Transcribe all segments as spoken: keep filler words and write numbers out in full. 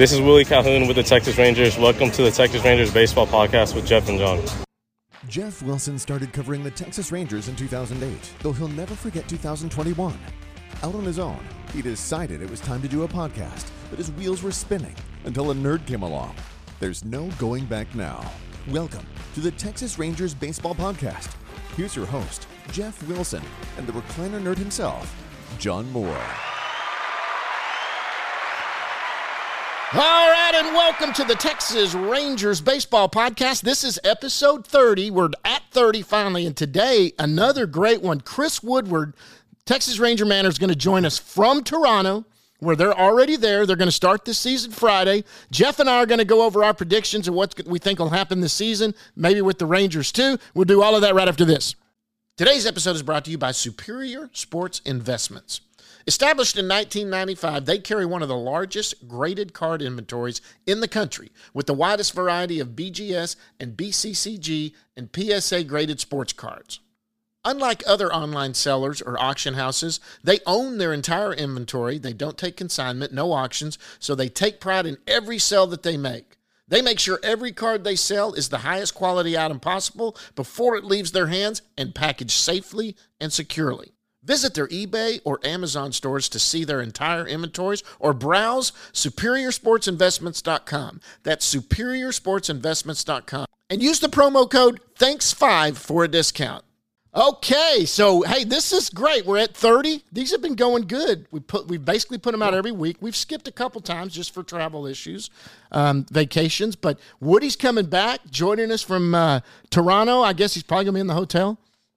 This is Willie Calhoun with the Texas Rangers. Welcome to the Texas Rangers Baseball Podcast with Jeff and John. Jeff Wilson started covering the Texas Rangers in two thousand eight, though he'll never forget two thousand twenty-one. Out on his own, he decided it was time to do a podcast, but his wheels were spinning until a nerd came along. There's no going back now. Welcome to the Texas Rangers Baseball Podcast. Here's your host, Jeff Wilson, and the recliner nerd himself, John Moore. All right, and welcome to the Texas Rangers Baseball Podcast. This is episode thirty. We're at thirty finally, and today, another great one. Chris Woodward, Texas Ranger Manor, is going to join us from Toronto, where they're already there. They're going to start this season Friday. Jeff and I are going to go over our predictions of what we think will happen this season, maybe with the Rangers too. We'll do all of that right after this. Today's episode is brought to you by Superior Sports Investments. Established in nineteen ninety-five, they carry one of the largest graded card inventories in the country, with the widest variety of B G S and B C C G and P S A graded sports cards. Unlike other online sellers or auction houses, they own their entire inventory. They don't take consignment, no auctions, so they take pride in every sale that they make. They make sure every card they sell is the highest quality item possible before it leaves their hands and packaged safely and securely. Visit their eBay or Amazon stores to see their entire inventories or browse superior sports investments dot com. That's superior sports investments dot com. And use the promo code thanks five for a discount. Okay, so hey, this is great. We're at thirty. These have been going good. We put we basically put them out every week. We've skipped a couple times just for travel issues, um, vacations. But Woody's coming back, joining us from uh, Toronto. I guess he's probably gonna be in the hotel.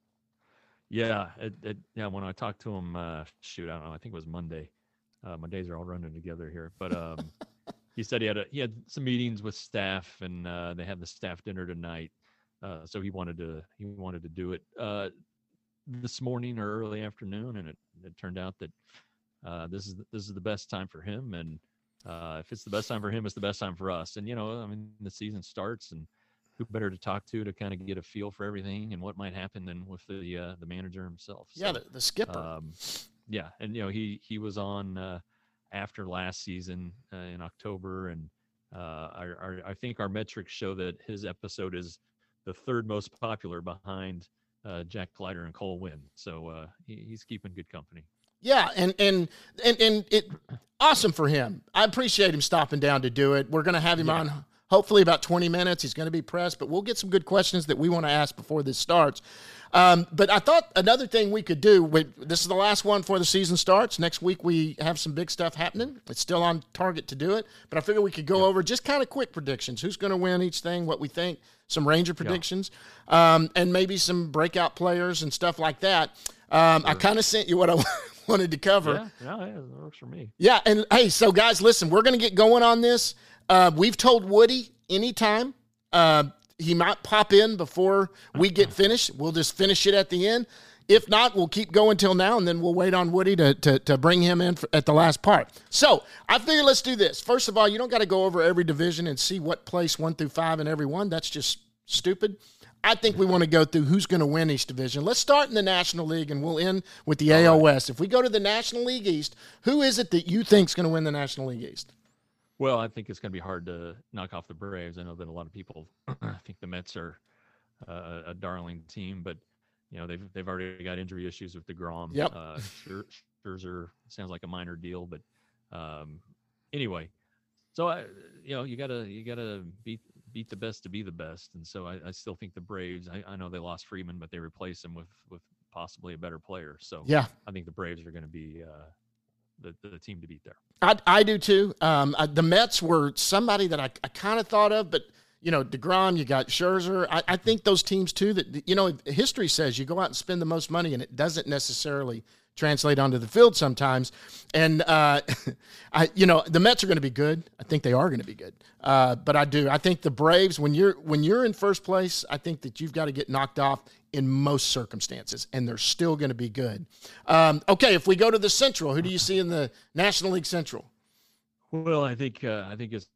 Yeah, it, it, yeah. When I talked to him, uh, shoot, I don't know. I think it was Monday. Uh, my days are all running together here, but um, he said he had a, he had some meetings with staff, and uh, they had the staff dinner tonight. Uh, so he wanted to he wanted to do it uh, this morning or early afternoon, and it, it turned out that uh, this is this is the best time for him. And uh, if it's the best time for him, it's the best time for us. And you know, I mean, the season starts, and who better to talk to to kind of get a feel for everything and what might happen than with the uh, the manager himself. So, yeah, the, the skipper. Um, yeah, and you know he he was on uh, after last season uh, in October, and uh, our, our I think our metrics show that his episode is the third most popular behind uh, Jack Leiter and Cole Winn. So uh, he, he's keeping good company. Yeah, and and and and it awesome for him. I appreciate him stopping down to do it. We're going to have him yeah. on. Hopefully about twenty minutes. He's going to be pressed, but we'll get some good questions that we want to ask before this starts. Um, but I thought another thing we could do, we, this is the last one before the season starts. Next week we have some big stuff happening. It's still on target to do it, but I figure we could go yeah. over just kind of quick predictions. Who's going to win each thing, what we think, some Ranger predictions, yeah. um, and maybe some breakout players and stuff like that. Um, sure. I kind of sent you what I wanted to cover. Yeah, yeah, yeah, that works for me. Yeah, and hey, so guys, listen, we're going to get going on this. Uh, we've told Woody anytime uh, he might pop in before we get finished. We'll just finish it at the end. If not, we'll keep going till now, and then we'll wait on Woody to to, to bring him in for, at the last part. So I figure let's do this. First of all, you don't got to go over every division and see what place one through five in every one. That's just stupid. I think we want to go through who's going to win each division. Let's start in the National League, and we'll end with the A L West. If we go to the National League East, who is it that you think is going to win the National League East? Well, I think it's going to be hard to knock off the Braves. I know that a lot of people think the Mets are uh, a darling team, but you know they've they've already got injury issues with DeGrom. Yep. Uh, Scherzer sounds like a minor deal, but um, anyway, so I you know you gotta you gotta beat beat the best to be the best, and so I, I still think the Braves. I, I know they lost Freeman, but they replaced him with with possibly a better player. So yeah, I think the Braves are going to be uh, the the team to beat there. I, I do too. Um, I, the Mets were somebody that I, I kind of thought of, but, you know, DeGrom, you got Scherzer. I, I think those teams too that, you know, history says you go out and spend the most money and it doesn't necessarily translate onto the field sometimes. And, uh, I, you know, the Mets are going to be good. I think they are going to be good. Uh, but I do. I think the Braves, when you're when you're in first place, I think that you've got to get knocked off in most circumstances, and they're still going to be good. Um, okay, if we go to the Central, who do you see in the National League Central? Well, I think uh, I think it's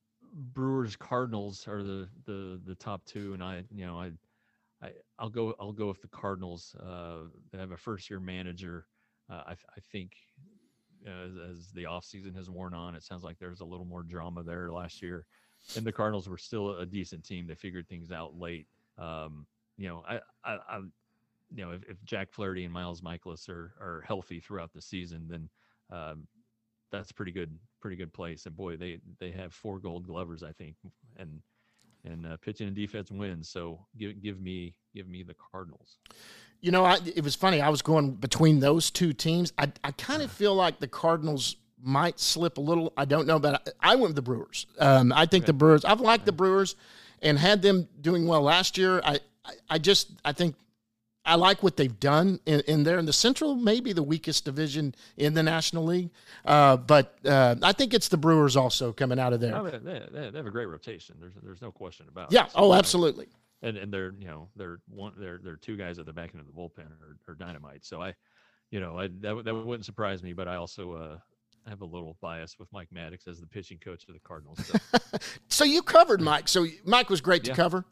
Brewers Cardinals are the, the, the top two, and I you know I I I'll go I'll go with the Cardinals. Uh, they have a first year manager. Uh, I I think as, as the offseason has worn on. It sounds like there's a little more drama there last year. And the Cardinals were still a decent team. They figured things out late. Um, you know, I, I, I you know, if, if Jack Flaherty and Miles Michaelis are, are healthy throughout the season, then um, that's pretty good, pretty good place. And boy, they, they have four Gold Glovers, I think, and and uh, pitching and defense wins. So give give me give me the Cardinals. You know, I, it was funny. I was going between those two teams. I I kind of feel like the Cardinals might slip a little. I don't know, but I, I went with the Brewers. Um, I think okay. the Brewers. I've liked the Brewers, and had them doing well last year. I I, I just I think. I like what they've done in, in there. In the Central, maybe the weakest division in the National League. Uh, but uh, I think it's the Brewers also coming out of there. No, they, they, they have a great rotation. There's there's no question about yeah. it. Yeah. Oh, absolutely. And and they're you know they're one they're they're two guys at the back end of the bullpen are, are dynamite. So I, you know, I that that wouldn't surprise me. But I also uh, have a little bias with Mike Maddox as the pitching coach of the Cardinals. So, so you covered Mike. So Mike was great to yeah. cover.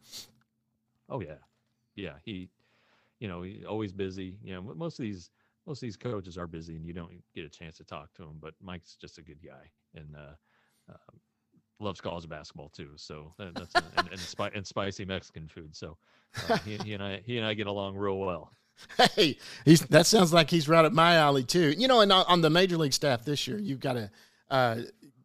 Oh yeah, yeah. He. You know, he's always busy. You know, most of these most of these coaches are busy, and you don't get a chance to talk to him. But Mike's just a good guy, and uh, uh, loves college basketball too. So that, that's a, and, and, spi- and spicy Mexican food. So uh, he, he and I he and I get along real well. Hey, he's that sounds like he's right up my alley too. You know, and on the major league staff this year, you've got to uh,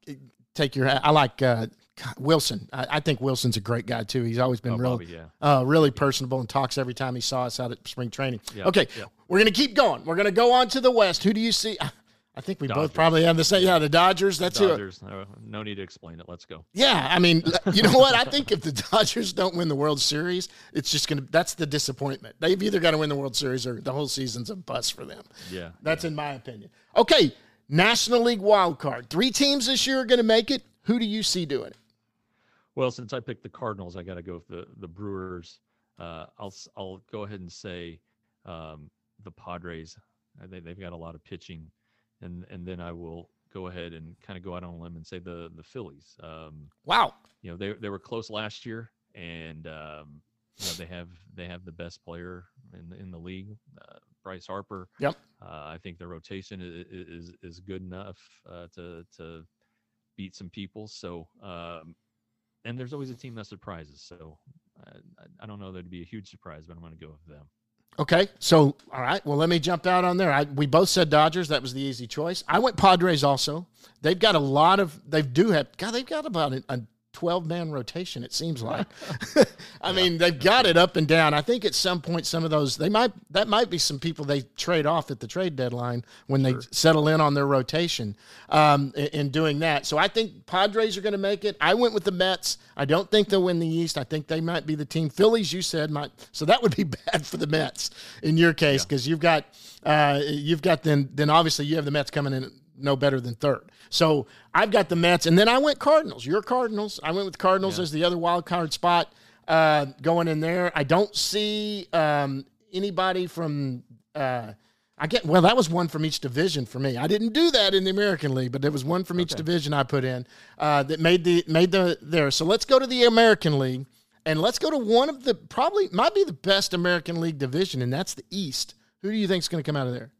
take your. I like. Uh, Wilson. I, I think Wilson's a great guy too. He's always been Oh, real, Bobby, yeah. uh, really personable and talks every time he saw us out at spring training. Yeah, okay, yeah. We're going to keep going. We're going to go on to the West. Who do you see? I think we Dodgers. both probably have the same. Yeah, the Dodgers. That's Dodgers. Who, no need to explain it. Let's go. Yeah, I mean, you know what? I think if the Dodgers don't win the World Series, it's just going to. That's the disappointment. They've either got to win the World Series or the whole season's a bust for them. Yeah, that's yeah. in my opinion. Okay, National League wild card. Three teams this year are going to make it. Who do you see doing it? Well, since I picked the Cardinals, I got to go with the the Brewers. Uh, I'll I'll go ahead and say um, the Padres. They they've got a lot of pitching, and and then I will go ahead and kind of go out on a limb and say the the Phillies. Um, wow. You know they they were close last year, and um, you know they have they have the best player in in the league, uh, Bryce Harper. Yep. Uh, I think the rotation is is, is good enough uh, to to beat some people. So. Um, And there's always a team that surprises. So uh, I, I don't know that it'd be a huge surprise, but I'm going to go with them. Okay. So, all right. Well, let me jump out on there. I, we both said Dodgers. That was the easy choice. I went Padres also. They've got a lot of, they do have, God, they've got about a, a twelve-man rotation, it seems like. I yeah. mean, they've got it up and down. I think at some point some of those, they might, that might be some people they trade off at the trade deadline when sure. they settle in on their rotation um, in, in doing that. So I think Padres are going to make it. I went with the Mets. I don't think they'll win the East. I think they might be the team. Phillies, you said, might. So that would be bad for the Mets in your case because yeah. you've got, uh, you've got then, then obviously you have the Mets coming in no better than third. So I've got the Mets, and then I went Cardinals. Your Cardinals. I went with Cardinals yeah. as the other wild card spot uh, going in there. I don't see um, anybody from uh, – I get well, that was one from each division for me. I didn't do that in the American League, but there was one from each okay. division I put in uh, that made the made the there. So let's go to the American League, and let's go to one of the probably might be the best American League division, and that's the East. Who do you think is going to come out of there?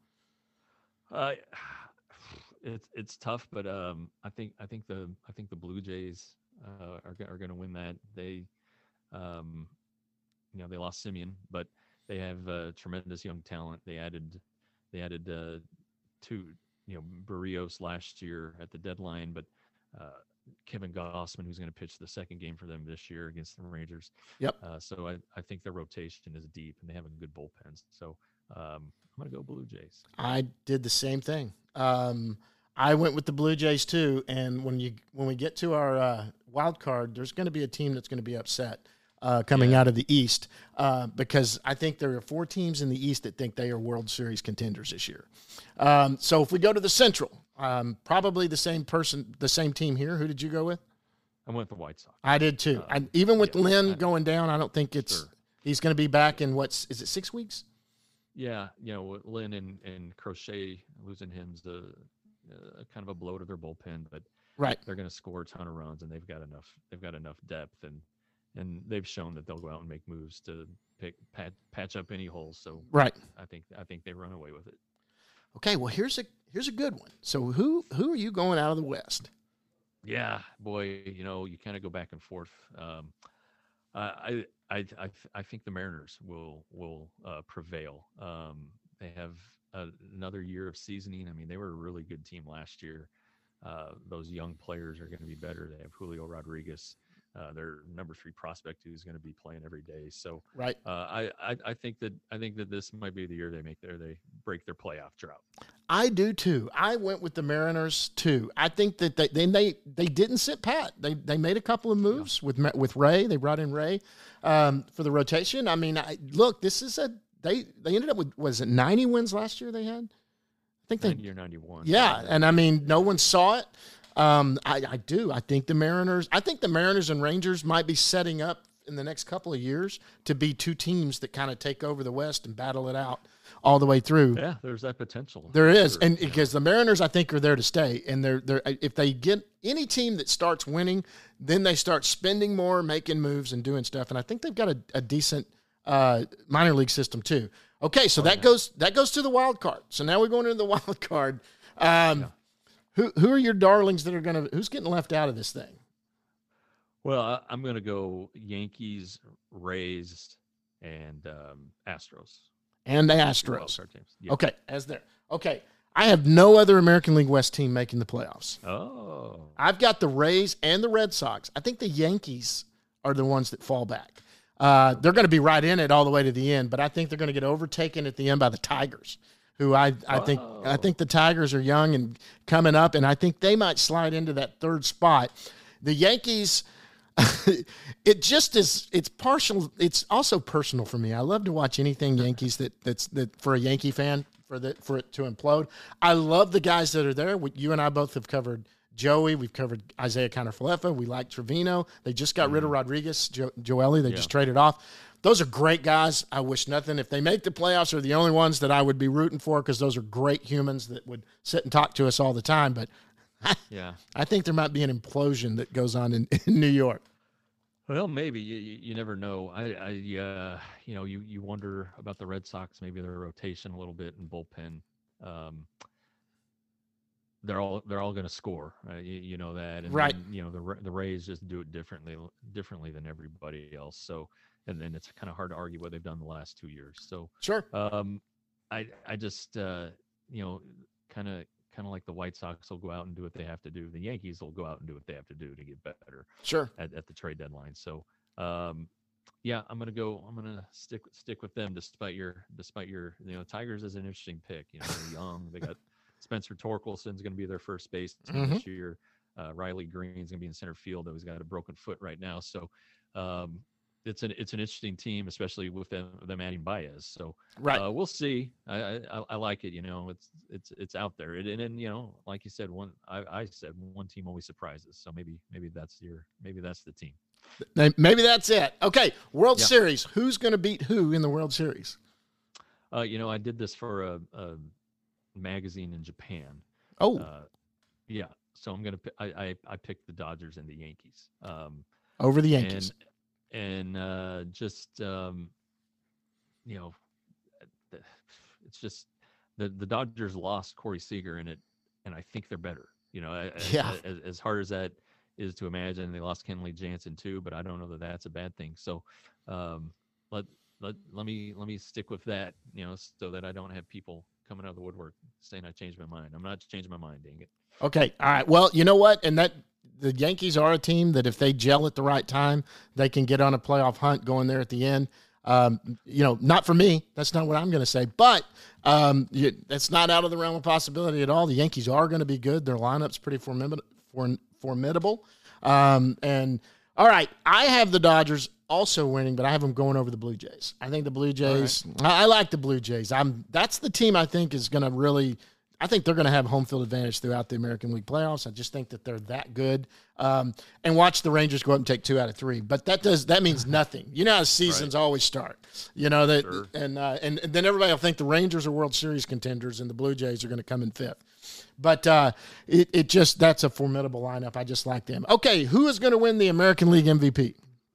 Uh It's it's tough, but um, I think I think the I think the Blue Jays uh, are are going to win that. They, um, you know, they lost Simeon, but they have uh, tremendous young talent. They added they added uh, two, you know, Barrios last year at the deadline, but uh, Kevin Gossman, who's going to pitch the second game for them this year against the Rangers. Yep. Uh, so I, I think their rotation is deep, and they have a good bullpen. So um, I'm going to go Blue Jays. I did the same thing. Um, I went with the Blue Jays too, and when you when we get to our uh, wild card, there's going to be a team that's going to be upset uh, coming yeah. out of the East uh, because I think there are four teams in the East that think they are World Series contenders this year. Um, so if we go to the Central, um, probably the same person, the same team here. Who did you go with? I went with the White Sox. I did too. Uh, I, even with yeah, Lynn I, going down, I don't think it's sure. he's going to be back in what's is it six weeks? Yeah, you know, with Lynn and, and Crochet losing him's the uh, kind of a blow to their bullpen, but right, they're going to score a ton of runs, and they've got enough. They've got enough depth, and and they've shown that they'll go out and make moves to pick pat, patch up any holes. So right, I think I think they run away with it. Okay, well here's a here's a good one. So who who are you going out of the West? Yeah, boy, you know, you kind of go back and forth. Um, I, I, I, I think the Mariners will will uh, prevail. Um, they have a, another year of seasoning. I mean, they were a really good team last year. Uh, those young players are going to be better. They have Julio Rodriguez, uh, their number three prospect, who's going to be playing every day. So, right, uh, I, I, I think that I think that this might be the year they make their they break their playoff drought. I do too. I went with the Mariners too. I think that they they they, they didn't sit pat. They they made a couple of moves yeah. with with Ray. They brought in Ray um, for the rotation. I mean, I, look, this is a they they ended up with was it ninety wins last year? They had. I think they ninety or ninety-one. Yeah, and I mean, no one saw it. Um, I, I do. I think the Mariners. I think the Mariners and Rangers might be setting up in the next couple of years to be two teams that kind of take over the West and battle it out all the way through. Yeah, there's that potential. There is, sure. and because the Mariners, I think, are there to stay. And they're they're if they get any team that starts winning, then they start spending more, making moves, and doing stuff. And I think they've got a, a decent uh, minor league system too. Okay, so oh, that yeah. goes that goes to the wild card. So now we're going into the wild card. Um, yeah. Who who are your darlings that are going to? Who's getting left out of this thing? Well, I, I'm going to go Yankees, Rays, and um, Astros. And the Astros. Yeah. Okay, as there. Okay, I have no other American League West team making the playoffs. Oh. I've got the Rays and the Red Sox. I think the Yankees are the ones that fall back. Uh, they're going to be right in it all the way to the end, but I think they're going to get overtaken at the end by the Tigers, who I, I think oh. I think the Tigers are young and coming up, and I think they might slide into that third spot. The Yankees, it just is. It's partial. It's also personal for me. I love to watch anything Yankees that that's that for a Yankee fan for the for it to implode. I love the guys that are there. We, you and I both have covered Joey. We've covered Isaiah Kiner-Falefa. We like Trevino. They just got mm. rid of Rodriguez, jo- Joely. They yeah. just traded off. Those are great guys. I wish nothing. If they make the playoffs, are the only ones that I would be rooting for because those are great humans that would sit and talk to us all the time. But yeah, I think there might be an implosion that goes on in, in New York. Well, maybe you, you, you never know. I, I uh, you know, you, you wonder about the Red Sox, maybe their rotation a little bit in bullpen. Um, they're all they're all going to score, right? you, you know that, and right? Then, you know the the Rays just do it differently differently than everybody else. So, and then it's kind of hard to argue what they've done the last two years. So sure. Um, I I just uh, you know kind of. Kind of like the White Sox will go out and do what they have to do. The Yankees will go out and do what they have to do to get better. Sure. At, at the trade deadline. So, um, yeah, I'm gonna go. I'm gonna stick stick with them despite your despite your you know Tigers is an interesting pick. You know, they're young. They got Spencer Torkelson's going to be their first baseman mm-hmm. this year. Uh, Riley Green's going to be in center field, though he's got a broken foot right now. So, um, it's an it's an interesting team, especially with them them adding Baez. So right, uh, we'll see. I, I I like it. You know, it's it's it's out there, and and, and you know, like you said, one I, I said one team always surprises. So maybe maybe that's your maybe that's the team. Maybe that's it. Okay, World yeah. Series. Who's going to beat who in the World Series? Uh, you know, I did this for a, a magazine in Japan. Oh, uh, yeah. So I'm gonna I I, I picked the Dodgers and the Yankees. Um, over the Yankees. And, And uh, just, um, you know, it's just the, the Dodgers lost Corey Seager in it, and I think they're better. You know, yeah. as, as hard as that is to imagine, they lost Kenley Jansen too, but I don't know that that's a bad thing. So um, let let let me let me stick with that. You know, so that I don't have people coming out of the woodwork saying I changed my mind. I'm not changing my mind. Dang it. Okay. All right. Well, you know what, and that. The Yankees are a team that if they gel at the right time, they can get on a playoff hunt going there at the end. Um, you know, not for me. That's not what I'm going to say. But um, you, that's not out of the realm of possibility at all. The Yankees are going to be good. Their lineup's pretty formidable. formidable. Um, and, all right, I have the Dodgers also winning, but I have them going over the Blue Jays. I think the Blue Jays right. – I, I like the Blue Jays. I'm That's the team I think is going to really – I think they're going to have home field advantage throughout the American League playoffs. I just think that they're that good. Um, and watch the Rangers go up and take two out of three. But that does that means nothing. You know how seasons right. always start. You know that, sure. and, uh, and and then everybody will think the Rangers are World Series contenders and the Blue Jays are going to come in fifth. But uh, it it just that's a formidable lineup. I just like them. Okay, who is going to win the American League M V P?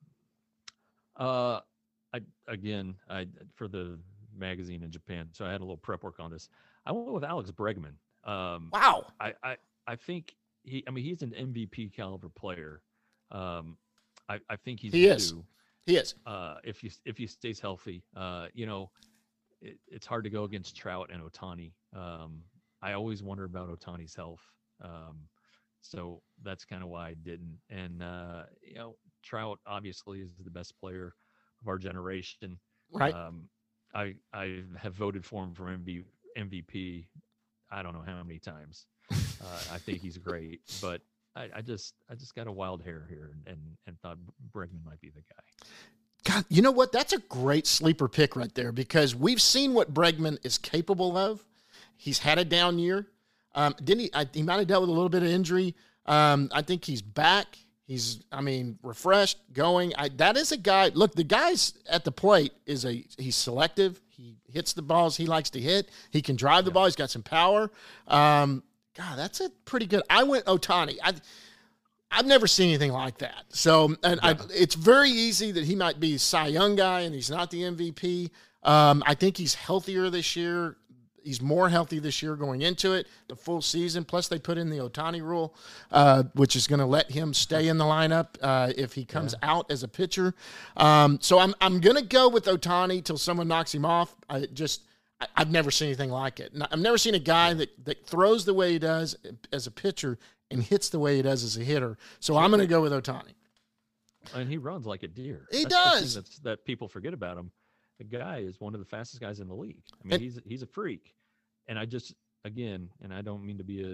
Uh, I again I for the magazine in Japan, so I had a little prep work on this. I went with Alex Bregman. Um, Wow. I, I I think he. I mean, he's an M V P caliber player. Um, I I think he's He is. due, He is. uh, if he if he stays healthy. Uh, you know, it, it's hard to go against Trout and Ohtani. Um, I always wonder about Ohtani's health. Um, so that's kind of why I didn't. And uh, you know, Trout obviously is the best player of our generation. Right. Um, I I have voted for him for M V P. I don't know how many times. Uh, I think he's great, but I, I just I just got a wild hair here, and, and and thought Bregman might be the guy. God, you know what? That's a great sleeper pick right there, because we've seen what Bregman is capable of. He's had a down year. Um, didn't he? I, he might have dealt with a little bit of injury. Um, I think he's back. He's, I mean, refreshed, going. I, that is a guy. Look, the guy's at the plate is a. He's selective. He hits the balls he likes to hit. He can drive the Yeah. ball. He's got some power. Um, God, that's a pretty good. I went Ohtani. I. I've never seen anything like that. So, and I, it's very easy that he might be a Cy Young guy, and he's not the M V P. Um, I think he's healthier this year. He's more healthy this year going into it, the full season. Plus, they put in the Ohtani rule, uh, which is going to let him stay in the lineup uh, if he comes yeah. out as a pitcher. Um, so I'm I'm going to go with Ohtani till someone knocks him off. I just I, I've never seen anything like it. I've never seen a guy that that throws the way he does as a pitcher and hits the way he does as a hitter. So I'm going to go with Ohtani. And he runs like a deer. He that's does. The thing that's, that people forget about him. The guy is one of the fastest guys in the league. I mean, And, he's he's a freak. And I just, again, and I don't mean to be a,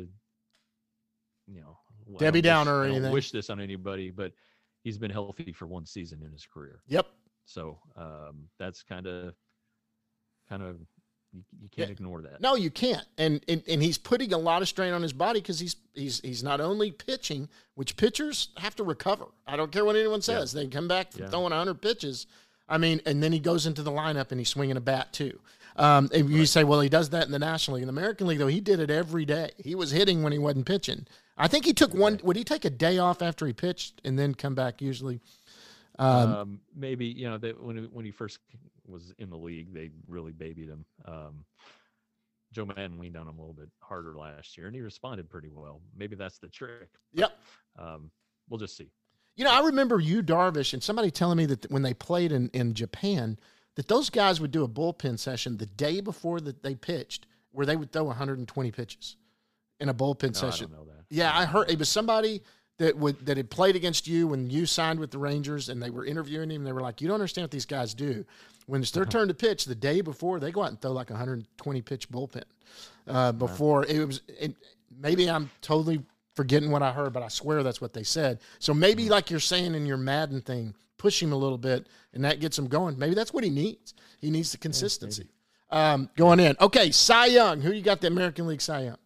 you know, Debbie Downer or I don't anything. wish this on anybody, but he's been healthy for one season in his career. Yep. So um, that's kind of, kind of, you, you can't Yeah. ignore that. No, you can't. And, and and he's putting a lot of strain on his body because he's he's he's not only pitching, which pitchers have to recover. I don't care what anyone says. Yeah. They come back from Yeah. throwing one hundred pitches. I mean, and then he goes into the lineup and he's swinging a bat too. Um, and you say, well, he does that in the National League. In the American League, though, he did it every day. He was hitting when he wasn't pitching. I think he took one. Would he take a day off after he pitched and then come back usually? Um, Um, maybe, you know, that when he, when he first was in the league, they really babied him. Um, Joe Madden leaned on him a little bit harder last year, and he responded pretty well. Maybe that's the trick. Yep. Um, we'll just see. You know, I remember you, Darvish, and somebody telling me that when they played in, in Japan, that those guys would do a bullpen session the day before that they pitched, where they would throw one hundred twenty pitches in a bullpen No, session. I don't know that. Yeah, I heard it was somebody that would that had played against you when you signed with the Rangers, and they were interviewing him. And they were like, "You don't understand what these guys do. When it's their turn to pitch, the day before, they go out and throw like a one hundred twenty pitch bullpen." Uh, before it was, it, maybe I'm totally forgetting what I heard, but I swear that's what they said. So maybe, like you're saying in your Madden thing, push him a little bit, and that gets him going. Maybe that's what he needs. He needs the consistency. Yeah, um, going in. Okay, Cy Young. Who you got the American League Cy Young?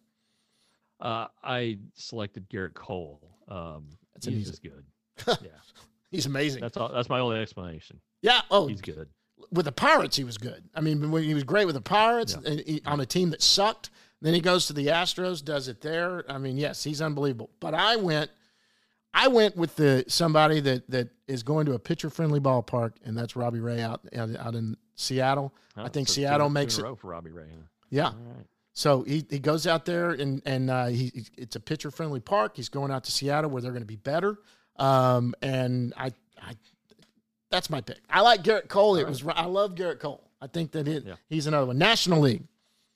Uh, I selected Garrett Cole. Um, That's an he's easy- just good. Yeah, He's amazing. that's all. That's my only explanation. yeah. Oh, He's good. with the Pirates, he was good. I mean, when he was great with the Pirates Yeah. and he, on a team that sucked. Then he goes to the Astros, does it there. I mean, yes, he's unbelievable. But I went, I went with the somebody that that is going to a pitcher-friendly ballpark, and that's Robbie Ray out out, out in Seattle. Huh? I think So two- Seattle two makes in a it. row for Robbie Ray. Huh? Yeah. All right. So he, he goes out there and and uh, he it's a pitcher friendly park. He's going out to Seattle where they're going to be better. Um, and I I that's my pick. I like Garrett Cole. It All was I love Garrett Cole. I think that it, Yeah. he's another one. National League.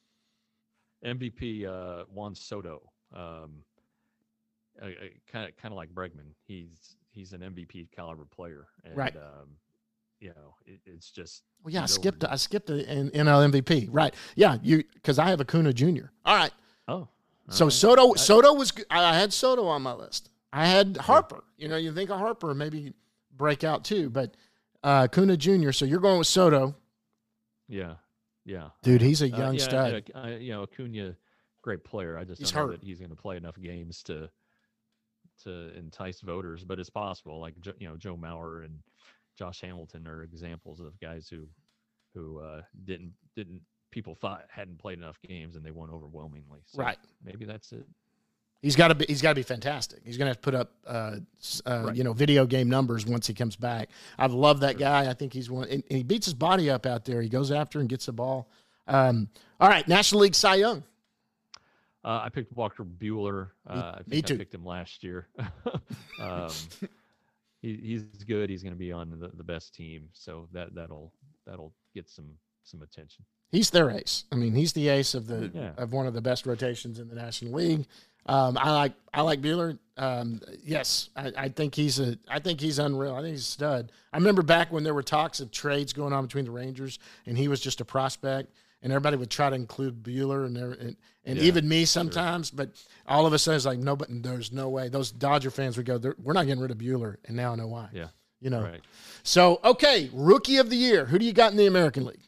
M V P uh, Juan Soto. Um, kind of kind of like Bregman. He's he's an M V P caliber player. And, Right. Um, you know, it, it's just. Well, yeah, I he's skipped overdue. I skipped the N- NL M V P. Right. Yeah, you because I have Acuna Junior All right. Oh. all So right. Soto I- Soto was good. I had Soto on my list. I had Harper. You know, you think of Harper maybe break out too, but uh Acuna Junior So you're going with Soto. Yeah. Yeah. Dude, he's a Uh, young yeah, stud. and, uh, you know, Acuna, great player. I just He's don't know hurt. that he's going to play enough games to to entice voters, but it's possible. Like Jo- you know, Joe Mauer and Josh Hamilton are examples of guys who who uh, didn't didn't people thought hadn't played enough games and they won overwhelmingly. So Right. Maybe that's it. He's got to be. He's got to be fantastic. He's going to have to put up, uh, s- uh, Right. you know, video game numbers once he comes back. I've loved that guy. I think he's one. And, and he beats his body up out there. He goes after and gets the ball. Um, all right, National League Cy Young. Uh, I picked Walker Buehler. Uh, Me- I think me too. I picked him last year. um, he, he's good. He's going to be on the, the best team, so that that'll that'll get some some attention. He's their ace. I mean, he's the ace of the Yeah. of one of the best rotations in the National League. Um, I like I like Buehler. Um, yes, I, I think he's a I think he's unreal. I think he's a stud. I remember back when there were talks of trades going on between the Rangers, and he was just a prospect, and everybody would try to include Buehler and there, and, and Yeah, even me sometimes. But all of a sudden, it's like no, but there's no way. Those Dodger fans would go, we're not getting rid of Buehler, and now I know why. Yeah, you know. right. So okay, Rookie of the Year. Who do you got in the American League?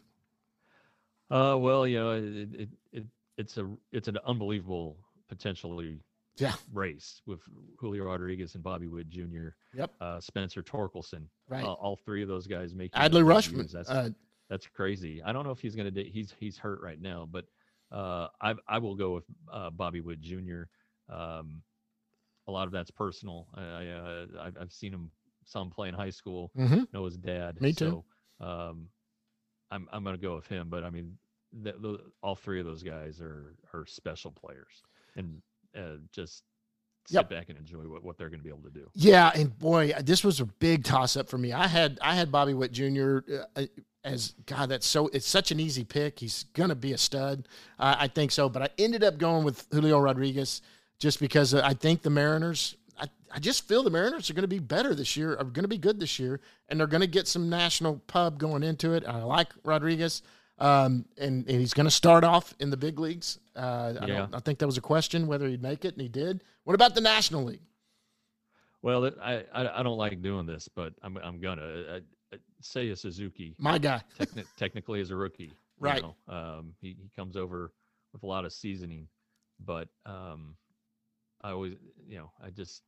Uh, well, you know, it, it, it it's a it's an unbelievable potentially Yeah. race with Julio Rodriguez and Bobby Witt Junior Yep. Uh, Spencer Torkelson. Right. Uh, all three of those guys making Adley their Rushman. debuts. That's Uh, that's crazy. I don't know if he's gonna. do- He's he's hurt right now, but uh, I I will go with uh, Bobby Witt Junior Um, a lot of that's personal. I, I uh, I've, I've seen him some play in high school. mhm. Know his dad. Me too. So, um, I'm I'm gonna go with him. But I mean, the, the, all three of those guys are are special players, and uh, just sit Yep. back and enjoy what, what they're gonna be able to do. Yeah, and boy, this was a big toss up for me. I had I had Bobby Witt Junior Uh, as God. That's so it's such an easy pick. He's gonna be a stud. Uh, I think so, but I ended up going with Julio Rodriguez just because uh, I think the Mariners. I, I just feel the Mariners are going to be better this year. Are going to be good this year, and they're going to get some national pub going into it. I like Rodriguez. Um, and, and he's going to start off in the big leagues. Uh, I, Yeah. don't, I think that was a question whether he'd make it, and he did. What about the National League? Well, it- I I, I don't like doing this, but I'm I'm gonna I, I, say a Suzuki. My guy. Techni- technically as a rookie, you Right. know. Um, he, he comes over with a lot of seasoning, but um, I always, you know, I just,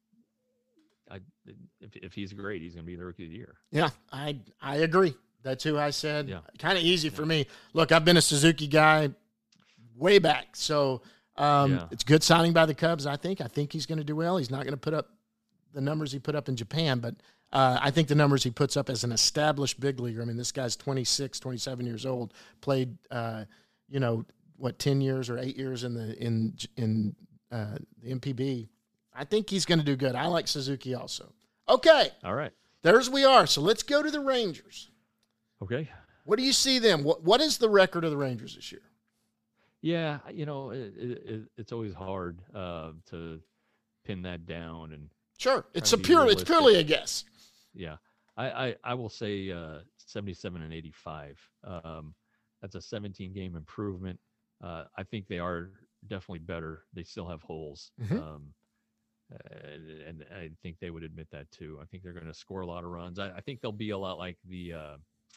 I if if he's great, he's gonna be the rookie of the year. Yeah, I I agree. That's who I said. Yeah. Kind of easy for me. Look, I've been a Suzuki guy way back, so um, Yeah. it's good signing by the Cubs. I think. I think he's going to do well. He's not going to put up the numbers he put up in Japan, but uh, I think the numbers he puts up as an established big leaguer. I mean, this guy's twenty-six, twenty-seven years old. Played, uh, you know, what ten years or eight years in the in in uh, the M P B. I think he's going to do good. I like Suzuki also. Okay, All right. there's we are. So let's go to the Rangers. Okay. What do you see them? What What is the record of the Rangers this year? Yeah, you know, it, it, it, it's always hard uh, to pin that down, and Sure, it's Trying a to be pure. It's realistic. purely a guess. yeah, I I, I will say uh, seventy-seven and eighty-five. Um, that's a seventeen game improvement. Uh, I think they are definitely better. They still have holes. Mhm. Um, and, and I think they would admit that too. I think they're going to score a lot of runs. I, I think they'll be a lot like the uh,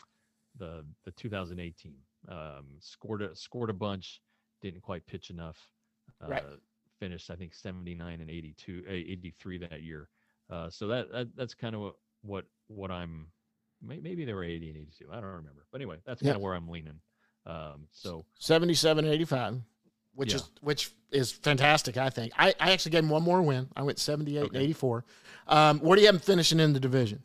the the two thousand eight team. Um, scored a scored a bunch, didn't quite pitch enough. Uh, Right. Finished I think seventy-nine and eighty-two, uh, eighty-three that year. Uh, so that, that that's kind of what what, what I'm. may- Maybe they were eighty and eighty-two. I don't remember. But anyway, that's Yeah. kind of where I'm leaning. Um, so Seventy-seven, eighty-five, which Yeah. is which is fantastic. I think. I, I actually gave him one more win. I went seventy-eight and Okay. eighty-four. Um, where do you have him finishing in the division?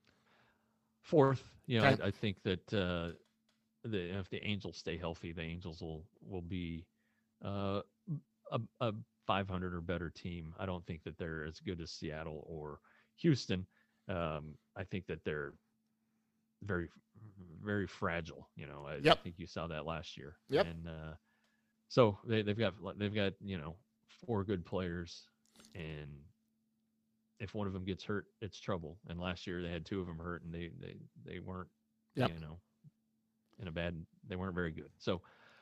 fourth, you know, Okay. I, I think that uh, the if the Angels stay healthy, the Angels will will be uh, a, a five hundred or better team. I don't think that they're as good as Seattle or Houston. Um, I think that they're very very fragile. You know, I, Yep. I think you saw that last year. Yep. And uh, so they they've got they've got you know four good players, and if one of them gets hurt, it's trouble. And last year they had two of them hurt, and they they they weren't Yep. you know in a bad. They weren't very good. So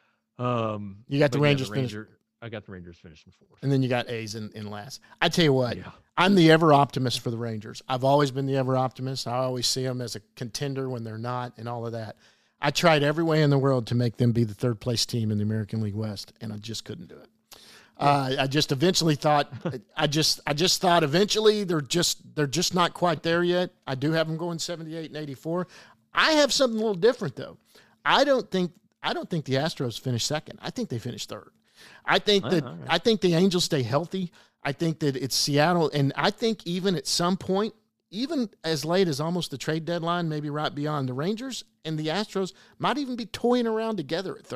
um, You got the but yeah, Rangers finish- Ranger, I got the Rangers finishing fourth. And then you got A's in, in last. I tell you what, Yeah. I'm the ever optimist for the Rangers. I've always been the ever optimist. I always see them as a contender when they're not, and all of that. I tried every way in the world to make them be the third place team in the American League West, and I just couldn't do it. Uh, I just eventually thought, I just, I just thought eventually they're just, they're just not quite there yet. I do have them going seventy-eight and eighty-four. I have something a little different though. I don't think, I don't think the Astros finish second. I think they finish third. I think that, Ah, all right. I think the Angels stay healthy. I think that it's Seattle, and I think even at some point, even as late as almost the trade deadline, maybe right beyond, the Rangers and the Astros might even be toying around together at third.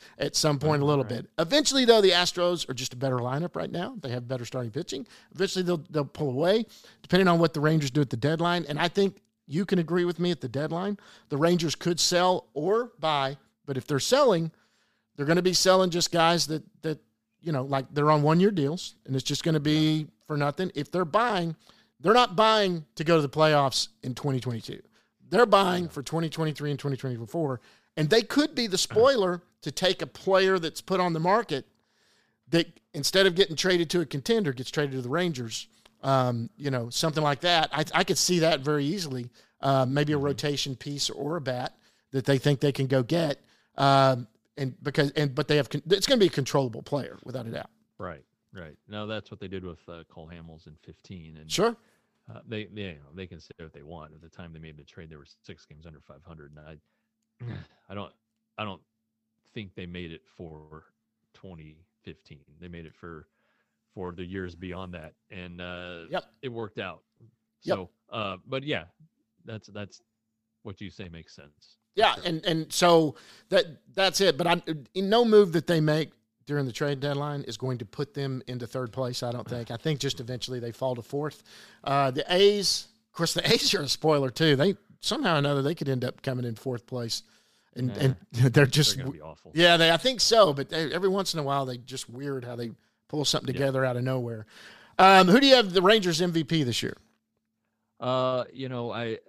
at some point a little right. bit. Eventually, though, the Astros are just a better lineup right now. They have better starting pitching. Eventually, they'll they'll pull away, depending on what the Rangers do at the deadline. And I think you can agree with me at the deadline. The Rangers could sell or buy, but if they're selling, they're going to be selling just guys that, that you know, like they're on one-year deals, and it's just going to be for nothing. If they're buying, they're not buying to go to the playoffs in twenty twenty-two. They're buying for twenty twenty-three and twenty twenty-four, and they could be the spoiler to take a player that's put on the market that instead of getting traded to a contender gets traded to the Rangers. Um, you know, something like that. I, I could see that very easily. Uh, maybe a rotation piece or a bat that they think they can go get. Um, and because and but they have it's going to be a controllable player without a doubt. Right, right. No, that's what they did with uh, Cole Hamels in fifteen. And sure, uh, they they you know, they can say what they want. At the time they made the trade, they were six games under five hundred, and I I don't I don't think they made it for twenty fifteen. They made it for. for the years beyond that, and uh, yep. it worked out. Yep. So, uh, but yeah, that's that's what you say makes sense. Yeah, sure. and and so that that's it. But I, in no move that they make during the trade deadline is going to put them into third place. I don't think. I think just eventually they fall to fourth. Uh, the A's, of course, the A's are a spoiler too. They somehow or another they could end up coming in fourth place, and nah, and they're just they're gonna be awful. Yeah, they I think so. But they, every once in a while they just weird how they pull something together yeah. out of nowhere. Um, who do you have the Rangers M V P this year? Uh, you know, I,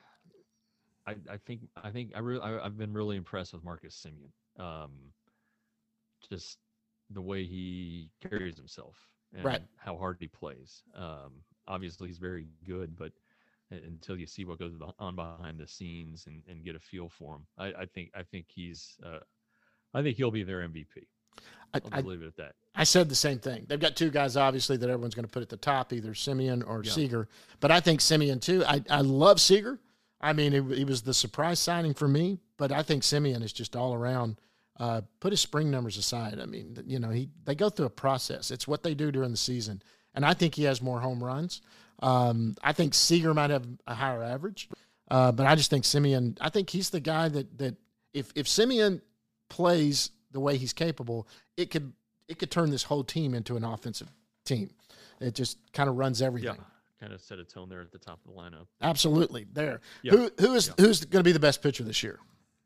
I, I think, I think I really, I, I've been really impressed with Marcus Semien. Um, just the way he carries himself and right. how hard he plays. Um, obviously he's very good, but until you see what goes on behind the scenes and, and get a feel for him, I, I think, I think he's, uh, I think he'll be their M V P. I'll I, just leave it at that. I said the same thing. They've got two guys, obviously, that everyone's going to put at the top, either Semien or yeah. Seager. But I think Semien, too. I, I love Seager. I mean, he, he was the surprise signing for me, but I think Semien is just all around. Uh, put his spring numbers aside. I mean, you know, he they go through a process. It's what they do during the season. And I think he has more home runs. Um, I think Seager might have a higher average. Uh, but I just think Semien, I think he's the guy that, that if, if Semien plays – the way he's capable, it could it could turn this whole team into an offensive team. It just kind of runs everything. Yeah, kind of set a tone there at the top of the lineup. Absolutely, there. Yeah. Who who is yeah. who's going to be the best pitcher this year?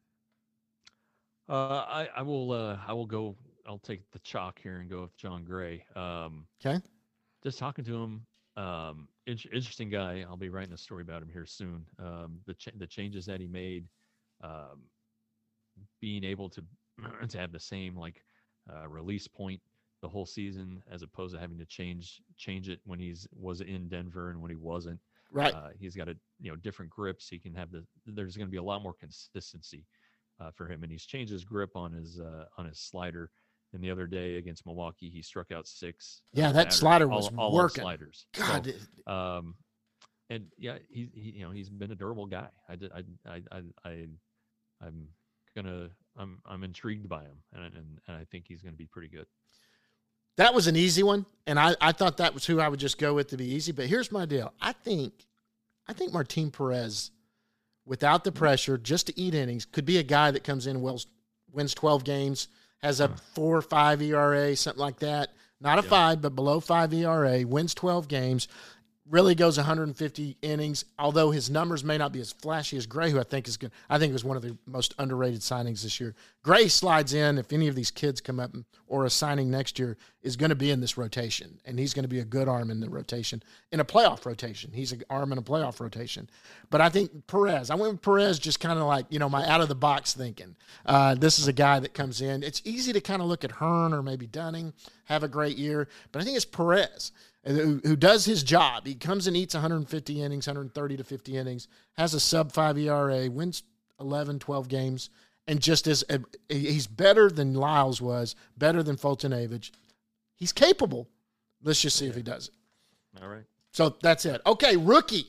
Uh, I I will uh, I will go. I'll take the chalk here and go with John Gray. Um, okay. Just talking to him, um, in- interesting guy. I'll be writing a story about him here soon. Um, the ch- the changes that he made, um, being able to. to have the same like uh, release point the whole season as opposed to having to change change it when he's was in Denver and when he wasn't. Right. Uh, he's got a you know different grips. He can have the there's going to be a lot more consistency uh, for him, and he's changed his grip on his uh, on his slider. And the other day against Milwaukee, he struck out six. Yeah, uh, that slider was all, all working. Sliders. God. So, um, and yeah, he, he you know he's been a durable guy. I did I I I, I I'm gonna. I'm I'm intrigued by him, and and, and I think he's going to be pretty good. That was an easy one, and I, I thought that was who I would just go with to be easy. But here's my deal: I think I think Martin Perez, without the pressure, just to eat innings, could be a guy that comes in, wins, wins twelve games, has a four or five E R A, something like that. Not a yeah. five, but below five E R A, wins twelve games. Really goes one hundred fifty innings, although his numbers may not be as flashy as Gray, who I think is good. I think was one of the most underrated signings this year. Gray slides in if any of these kids come up or a signing next year is going to be in this rotation, and he's going to be a good arm in the rotation, in a playoff rotation. He's an arm in a playoff rotation. But I think Perez, I went with Perez just kind of like, you know, my out-of-the-box thinking. Uh, this is a guy that comes in. It's easy to kind of look at Hearn or maybe Dunning, have a great year, but I think it's Perez. Who, who does his job. He comes and eats one hundred fifty innings, one hundred thirty to fifty innings, has a sub five E R A, wins eleven, twelve games, and just is a, he's better than Lyles was, better than Foltynewicz. He's capable. Let's just see okay. if he does it. All right. So that's it. Okay, rookie.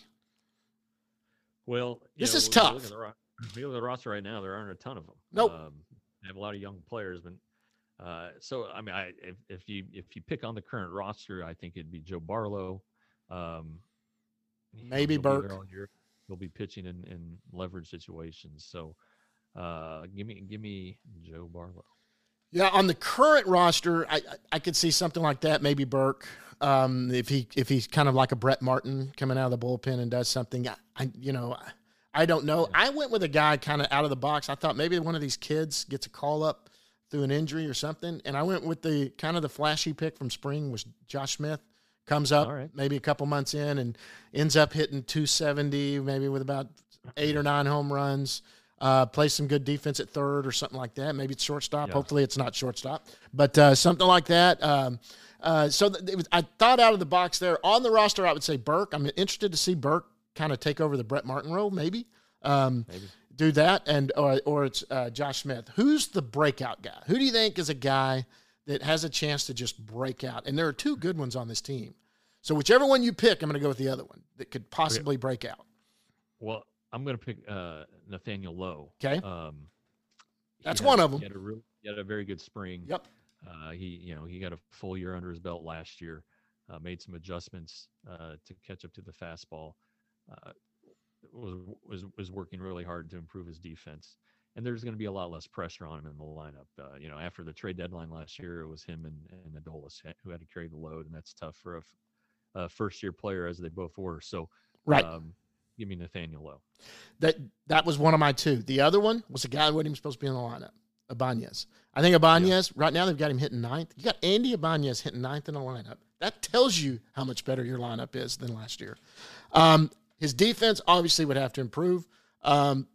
Well, this know, is we, tough. We look, ro- we look at the roster right now. There aren't a ton of them. Nope. Um, they have a lot of young players, but Uh, so I mean, I if, if you if you pick on the current roster, I think it'd be Joe Barlow, um, maybe he'll Burke. Be all year. He'll be pitching in, in leverage situations. So, uh, give me give me Joe Barlow. Yeah, on the current roster, I I, I could see something like that. Maybe Burke, um, if he if he's kind of like a Brett Martin coming out of the bullpen and does something. I, I you know, I don't know. Yeah. I went with a guy kind of out of the box. I thought maybe one of these kids gets a call up through an injury or something, and I went with the kind of the flashy pick from spring was Josh Smith. Comes up right. maybe a couple months in and ends up hitting two seventy, maybe with about eight or nine home runs. Uh, plays some good defense at third or something like that. Maybe it's shortstop. Yeah. Hopefully it's not shortstop, but uh, something like that. Um, uh, so th- it was, I thought out of the box there. On the roster, I would say Burke. I'm interested to see Burke kind of take over the Brett Martin role, maybe. Um, maybe. Do that, and or, or it's uh, Josh Smith. Who's the breakout guy? Who do you think is a guy that has a chance to just break out? And there are two good ones on this team. So whichever one you pick, I'm going to go with the other one that could possibly okay. break out. Well, I'm going to pick uh, Nathaniel Lowe. Okay. Um, That's had, one of them. He had, a real, he had a very good spring. Yep. Uh, he, you know, he got a full year under his belt last year, uh, made some adjustments uh, to catch up to the fastball. Uh, was was was working really hard to improve his defense. And there's going to be a lot less pressure on him in the lineup. Uh, you know, after the trade deadline last year, it was him and, and Adolis who had to carry the load, and that's tough for a, a first-year player, as they both were. So, right. Um, give me Nathaniel Lowe. That that was one of my two. The other one was a guy who wasn't even supposed to be in the lineup, Ibanez. I think Ibanez, yeah. right now they've got him hitting ninth. You got Andy Ibanez hitting ninth in the lineup. That tells you how much better your lineup is than last year. Um, his defense obviously would have to improve. Um,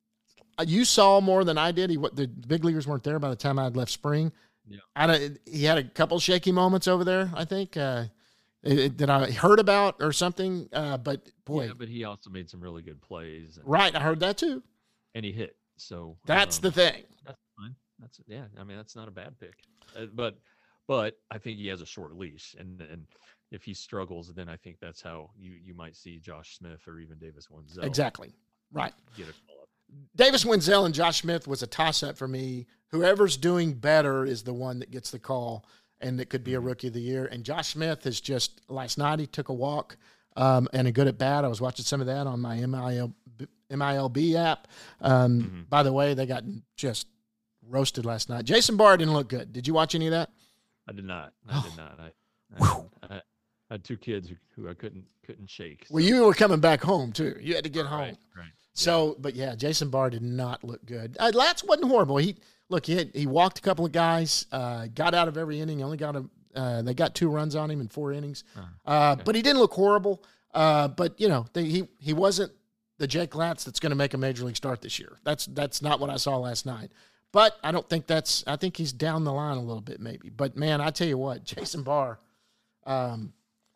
You saw more than I did. He, what, the big leaguers weren't there by the time I had left spring. Yeah. I don't, he had a couple shaky moments over there, I think, uh, it, it, that I heard about or something. Uh, but, boy. Yeah, but he also made some really good plays. And, right, I heard that too. And he hit. So that's um, the thing. That's fine. That's yeah. I mean, that's not a bad pick. Uh, but but I think he has a short leash, and and if he struggles, then I think that's how you you might see Josh Smith or even Davis Wenzel. Exactly. Right. Get a call up. Davis Wenzel and Josh Smith was a toss-up for me. Whoever's doing better is the one that gets the call, and that could be a Rookie of the Year. And Josh Smith is just, last night he took a walk um, and a good at bat. I was watching some of that on my M I L B app. Um, mm-hmm. By the way, they got just roasted last night. Jason Barr didn't look good. Did you watch any of that? I did not. I oh. did not. I, I, I, I had two kids who, who I couldn't couldn't shake. So. Well, you were coming back home, too. You had to get home. Right, right. So, yeah. but yeah, Jason Barr did not look good. Uh, Latz wasn't horrible. He look, he had, he walked a couple of guys, uh, got out of every inning. Only got a uh, they got two runs on him in four innings. Uh, uh, okay. But he didn't look horrible. Uh, but you know, they, he he wasn't the Jake Latz that's going to make a major league start this year. That's that's not what I saw last night. But I don't think that's. I think he's down the line a little bit, maybe. But man, I tell you what, Jason Barr, um,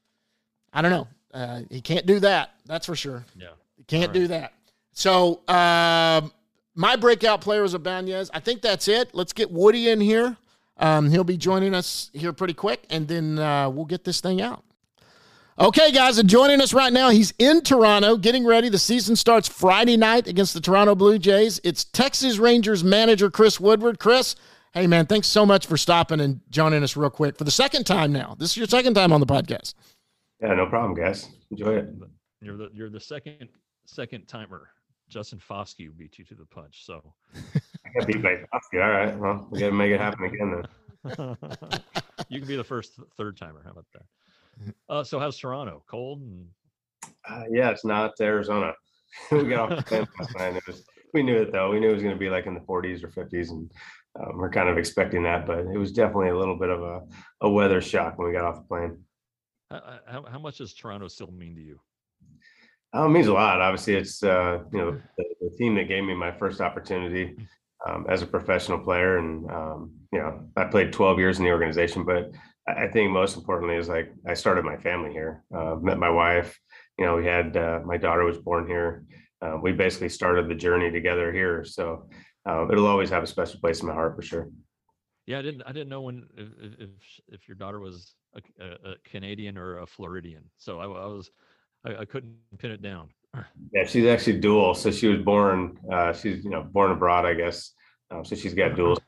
I don't know. Uh, he can't do that. That's for sure. Yeah, he can't right. do that. So um, my breakout player was Ibanez. I think that's it. Let's get Woody in here. Um, he'll be joining us here pretty quick, and then uh, we'll get this thing out. Okay, guys, and joining us right now, he's in Toronto, getting ready. The season starts Friday night against the Toronto Blue Jays. It's Texas Rangers manager Chris Woodward. Chris, hey, man, thanks so much for stopping and joining us real quick for the second time now. This is your second time on the podcast. Yeah, no problem, guys. Enjoy it. You're the you're the second second timer. Justin Foscue beat you to the punch, so I got beat by Foscue. All right, well, we got to make it happen again then. You can be the first third timer. How about that? Uh, so how's Toronto? Cold? And... Uh, yeah, it's not Arizona. We got off the plane last night. It was, we knew it though. We knew it was going to be like in the forties or fifties, and um, we're kind of expecting that. But it was definitely a little bit of a, a weather shock when we got off the plane. How, how, how much does Toronto still mean to you? Um, it means a lot. Obviously, it's uh, you know the, the team that gave me my first opportunity um, as a professional player, and um, you know I played twelve years in the organization. But I think most importantly is like I started my family here. Uh, met my wife. You know, we had uh, my daughter was born here. Uh, we basically started the journey together here. So uh, it'll always have a special place in my heart for sure. Yeah, I didn't. I didn't know when if if, if your daughter was a, a, a Canadian or a Floridian. So I, I was. I, I couldn't pin it down. Yeah, she's actually dual. So she was born, uh, she's, you know, born abroad, I guess. Um, so she's got dual.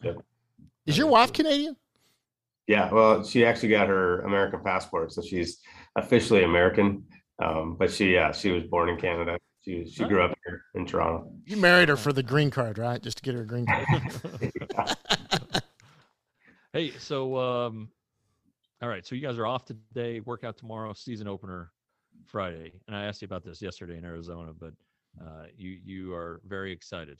Is your wife Canadian? Yeah, well, she actually got her American passport. So she's officially American. Um, but she, yeah, she was born in Canada. She she grew up here in Toronto. You married her for the green card, right? Just to get her a green card. Hey, so um, all right, so you guys are off today, workout tomorrow, season opener Friday, and I asked you about this yesterday in Arizona, but uh, you you are very excited.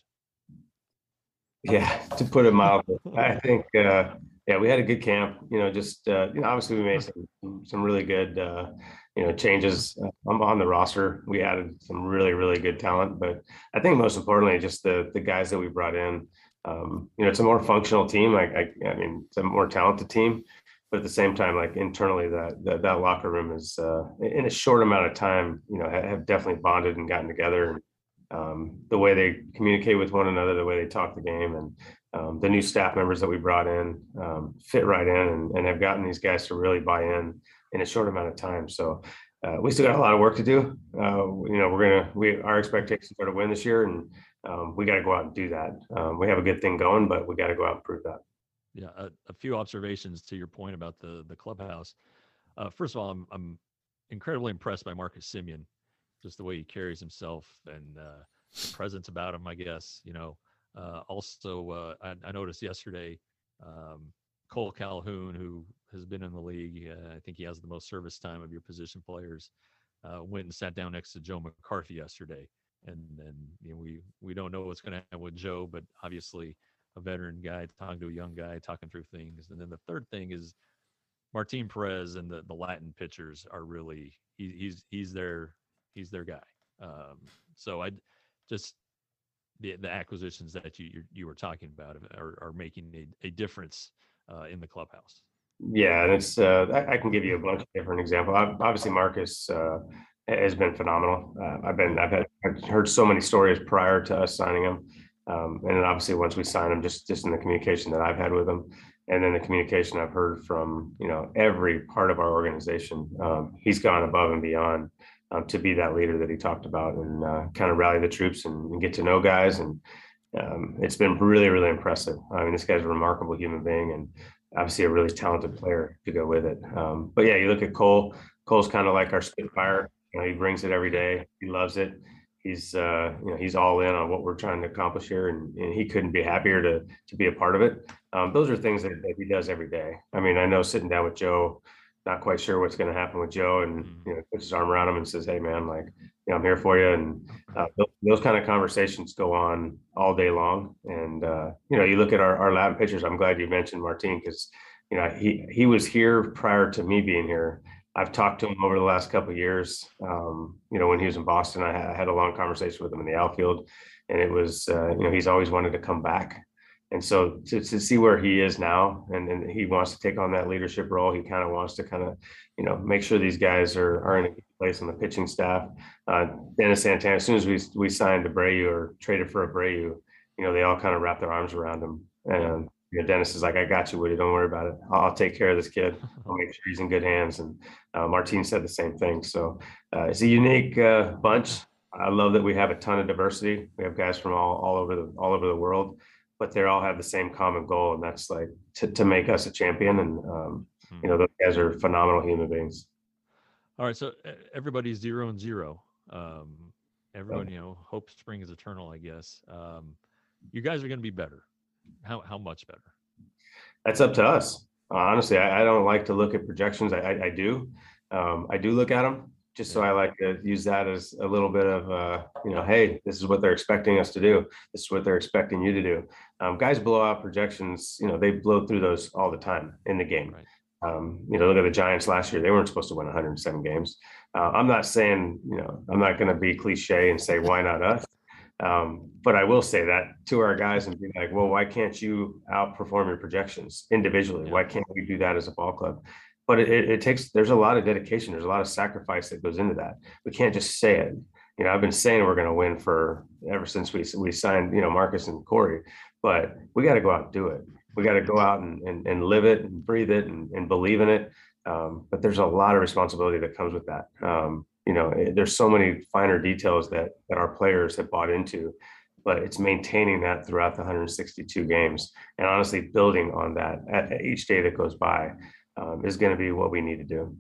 Yeah, to put it mildly, I think uh, yeah, we had a good camp. You know, just uh, you know, obviously we made some some really good uh, you know changes uh, on, on the roster. We added some really really good talent, but I think most importantly, just the the guys that we brought in. Um, you know, it's a more functional team. Like I, I mean, it's a more talented team, but at the same time, like internally, that that, that locker room is uh, in a short amount of time, you know, have, have definitely bonded and gotten together. And um, the way they communicate with one another, the way they talk the game, and um, the new staff members that we brought in um, fit right in and, and have gotten these guys to really buy in in a short amount of time. So uh, we still got a lot of work to do. Uh, you know, we're gonna we our expectations are to win this year, and um, we got to go out and do that. Um, we have a good thing going, but we got to go out and prove that. Yeah, a, a few observations to your point about the the clubhouse. Uh, first of all, I'm I'm incredibly impressed by Marcus Simeon, just the way he carries himself and uh, the presence about him. I guess you know. Uh, also, uh, I, I noticed yesterday um, Cole Calhoun, who has been in the league, uh, I think he has the most service time of your position players, uh, went and sat down next to Joe McCarthy yesterday. And then you know, we we don't know what's going to happen with Joe, but obviously a veteran guy talking to a young guy, talking through things. And then the third thing is Martin Perez and the, the Latin pitchers are really he, he's he's their he's their guy. Um, so I just the the acquisitions that you you, you were talking about are, are making a, a difference uh, in the clubhouse. Yeah, and it's uh, I, I can give you a bunch of different examples. Obviously, Marcus uh, has been phenomenal. Uh, I've been I've, had, I've heard so many stories prior to us signing him, um, and then obviously once we sign him, just just in the communication that I've had with him, and then the communication I've heard from you know every part of our organization, um, he's gone above and beyond um, to be that leader that he talked about and uh, kind of rally the troops and, and get to know guys and. Um, it's been really, really impressive. I mean, this guy's a remarkable human being, and obviously a really talented player to go with it. Um, but yeah, you look at Cole. Cole's kind of like our Spitfire. You know, he brings it every day. He loves it. He's uh, you know he's all in on what we're trying to accomplish here, and, and he couldn't be happier to to be a part of it. Um, those are things that, that he does every day. I mean, I know sitting down with Joe, not quite sure what's going to happen with Joe, and you know, puts his arm around him and says, "Hey, man, like, you know, I'm here for you." And uh, those, those kind of conversations go on all day long. And uh, you know, you look at our our lab pitchers. I'm glad you mentioned Martin because you know he he was here prior to me being here. I've talked to him over the last couple of years. Um, you know, when he was in Boston, I had, I had a long conversation with him in the outfield, and it was uh, you know he's always wanted to come back. And so to, to see where he is now, and, and he wants to take on that leadership role, he kind of wants to kind of, you know, make sure these guys are, are in a good place on the pitching staff. Uh, Dennis Santana, as soon as we we signed Abreu or traded for Abreu, you know, they all kind of wrapped their arms around him. And you know, Dennis is like, "I got you, Woody. Don't worry about it. I'll, I'll take care of this kid. I'll make sure he's in good hands." And uh, Martin said the same thing. So uh, it's a unique uh, bunch. I love that we have a ton of diversity. We have guys from all all over the all over the world, but they all have the same common goal, and that's like to, to make us a champion. And um, you know, those guys are phenomenal human beings. All right, so everybody's zero and zero. Um, everyone, you know, hope spring is eternal, I guess. Um, you guys are going to be better. How how much better? That's up to us. Uh, honestly, I, I don't like to look at projections. I, I, I do. Um, I do look at them just so I like to use that as a little bit of, uh, you know, hey, this is what they're expecting us to do. This is what they're expecting you to do. Um, guys blow out projections. You know, they blow through those all the time in the game. Right. Um, you know, look at the Giants last year. They weren't supposed to win one hundred seven games. Uh, I'm not saying, you know, I'm not going to be cliche and say, why not us? Um, but I will say that to our guys and be like, well, why can't you outperform your projections individually? Yeah. Why can't we do that as a ball club? But it, it takes, there's a lot of dedication. There's a lot of sacrifice that goes into that. We can't just say it. You know, I've been saying we're going to win for ever since we, we signed, you know, Marcus and Corey, but we got to go out and do it. We got to go out and, and, and live it and breathe it and, and believe in it. Um, but there's a lot of responsibility that comes with that. Um, you know, there's so many finer details that that our players have bought into, but it's maintaining that throughout the one hundred sixty-two games and honestly building on that at, at each day that goes by um, is going to be what we need to do.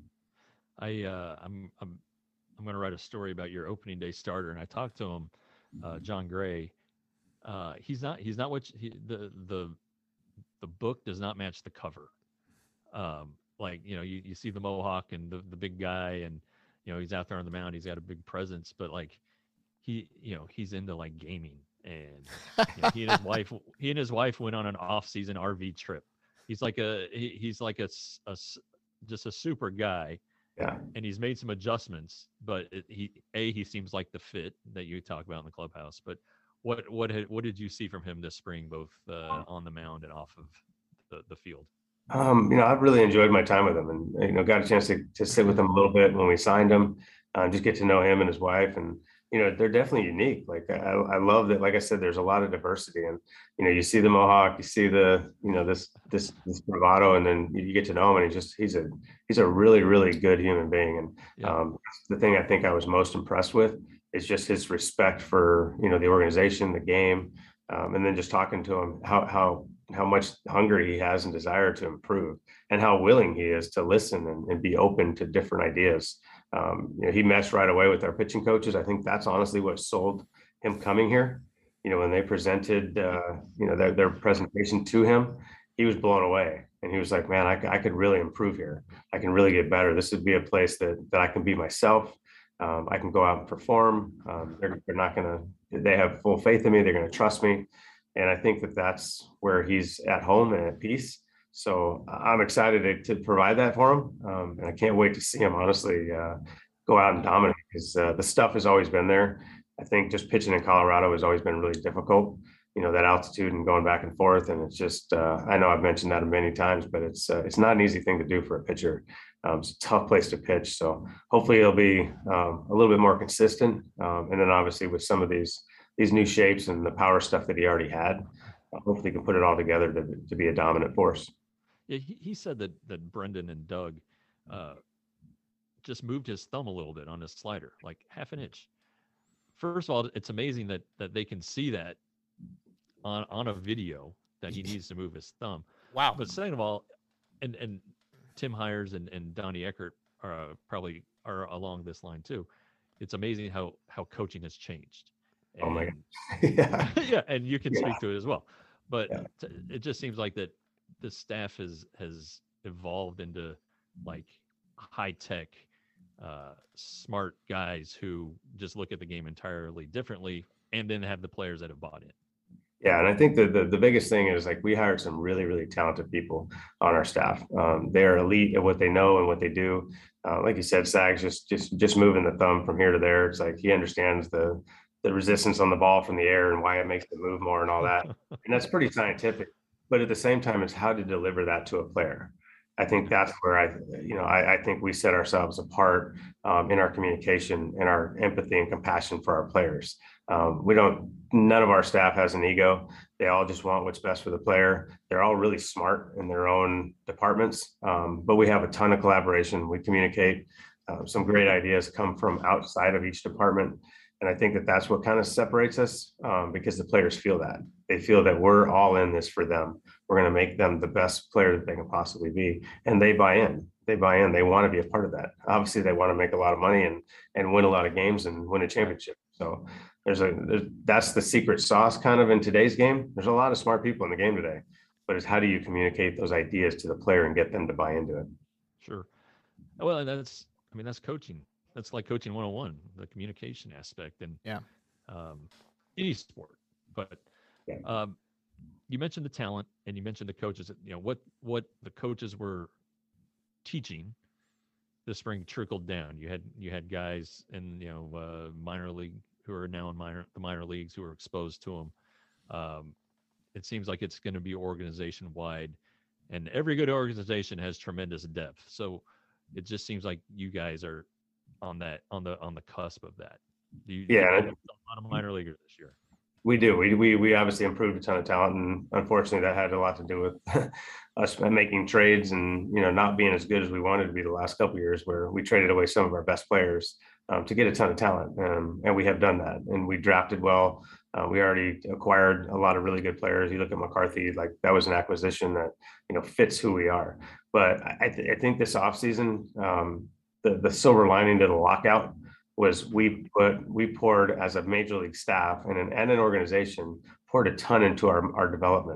I uh, I'm I'm I'm going to write a story about your opening day starter, and I talked to him, uh, John Gray. Uh, he's not he's not what he, the the the book does not match the cover. Um, like, you know, you, you see the mohawk and the, the big guy, and, you know, he's out there on the mound, he's got a big presence, but like he, you know, he's into like gaming, and you know, he and his wife, he and his wife went on an off season R V trip. He's like a, he, he's like a, a, just a super guy. Yeah. And he's made some adjustments, but it, he, a, he seems like the fit that you talk about in the clubhouse, but what, what, had, what did you see from him this spring, both uh, on the mound and off of the, the field? Um, you know, I've really enjoyed my time with him, and, you know, got a chance to, to sit with him a little bit when we signed him, uh, just get to know him and his wife. And, you know, they're definitely unique. Like, I, I love that. Like I said, there's a lot of diversity, and, you know, you see the mohawk, you see the, you know, this, this, this bravado, and then you get to know him, and he just, he's a, he's a really, really good human being. And Yeah. um, the thing I think I was most impressed with is just his respect for, you know, the organization, the game. Um, and then just talking to him, how, how, how much hunger he has and desire to improve, and how willing he is to listen and, and be open to different ideas. Um, you know, he meshed right away with our pitching coaches. I think that's honestly what sold him coming here. You know, when they presented, uh, you know, their, their presentation to him, he was blown away, and he was like, man, I, I could really improve here. I can really get better. This would be a place that, that I can be myself. Um, I can go out and perform. Um, they're, they're not going to, they have full faith in me. They're going to trust me. And I think that that's where he's at home and at peace. So I'm excited to, to provide that for him. Um, and I can't wait to see him, honestly, uh, go out and dominate, because uh, the stuff has always been there. I think just pitching in Colorado has always been really difficult, you know, that altitude and going back and forth. And it's just, uh, I know I've mentioned that many times, but it's, uh, it's not an easy thing to do for a pitcher. Um, it's a tough place to pitch. So hopefully it'll be um, a little bit more consistent. Um, and then obviously with some of these, these new shapes and the power stuff that he already had, uh, hopefully he can put it all together to, to be a dominant force. Yeah, he, he said that that Brendan and Doug uh, just moved his thumb a little bit on his slider, like half an inch. First of all, it's amazing that that they can see that on on a video that he needs to move his thumb. Wow. But second of all, and and Tim Hires and, and Donnie Eckert are uh, probably are along this line too. It's amazing how how coaching has changed. And, Oh my God. Yeah. yeah, and you can Yeah. speak to it as well. But Yeah. t- it just seems like that the staff has has evolved into like high tech, uh, smart guys who just look at the game entirely differently, and then have the players that have bought in. Yeah, and I think the, the the biggest thing is, like, we hired some really, really talented people on our staff. Um, they're elite at what they know and what they do. Uh, like you said, Sags just just just moving the thumb from here to there. It's like he understands the the resistance on the ball from the air and why it makes it move more and all that. And that's pretty scientific. But at the same time, it's how to deliver that to a player. I think that's where I, you know, I, I think we set ourselves apart um, in our communication and our empathy and compassion for our players. Um, we don't, none of our staff has an ego. They all just want what's best for the player. They're all really smart in their own departments, um, but we have a ton of collaboration. We communicate. Uh, some great ideas come from outside of each department. And I think that that's what kind of separates us, um, because the players feel that. They feel that we're all in this for them. We're going to make them the best player that they can possibly be. And they buy in. They buy in. They want to be a part of that. Obviously, they want to make a lot of money and and win a lot of games and win a championship. So there's a there's, that's the secret sauce kind of in today's game. There's a lot of smart people in the game today, but it's how do you communicate those ideas to the player and get them to buy into it? Sure. Well, and that's, I mean, that's coaching. That's like coaching one oh one, the communication aspect, and Yeah. um, any sport. But Yeah. um, you mentioned the talent, and you mentioned the coaches. You know what what the coaches were teaching this spring trickled down. You had you had guys in you know uh, minor league who are now in minor the minor leagues who are exposed to them. Um, it seems like it's going to be organization wide, and every good organization has tremendous depth. So it just seems like you guys are on that on the on the cusp of that. Do you, Yeah. you have a lot of minor leaguers this year? We do. We we we obviously improved a ton of talent, and unfortunately, that had a lot to do with us making trades and you know not being as good as we wanted to be the last couple of years, where we traded away some of our best players um, to get a ton of talent, um, and we have done that. And we drafted well. Uh, we already acquired a lot of really good players. You look at McCarthy, like that was an acquisition that you know fits who we are. But I, th- I think this offseason, um, the the silver lining to the lockout was we put we poured as a major league staff and an and an organization poured a ton into our, our development.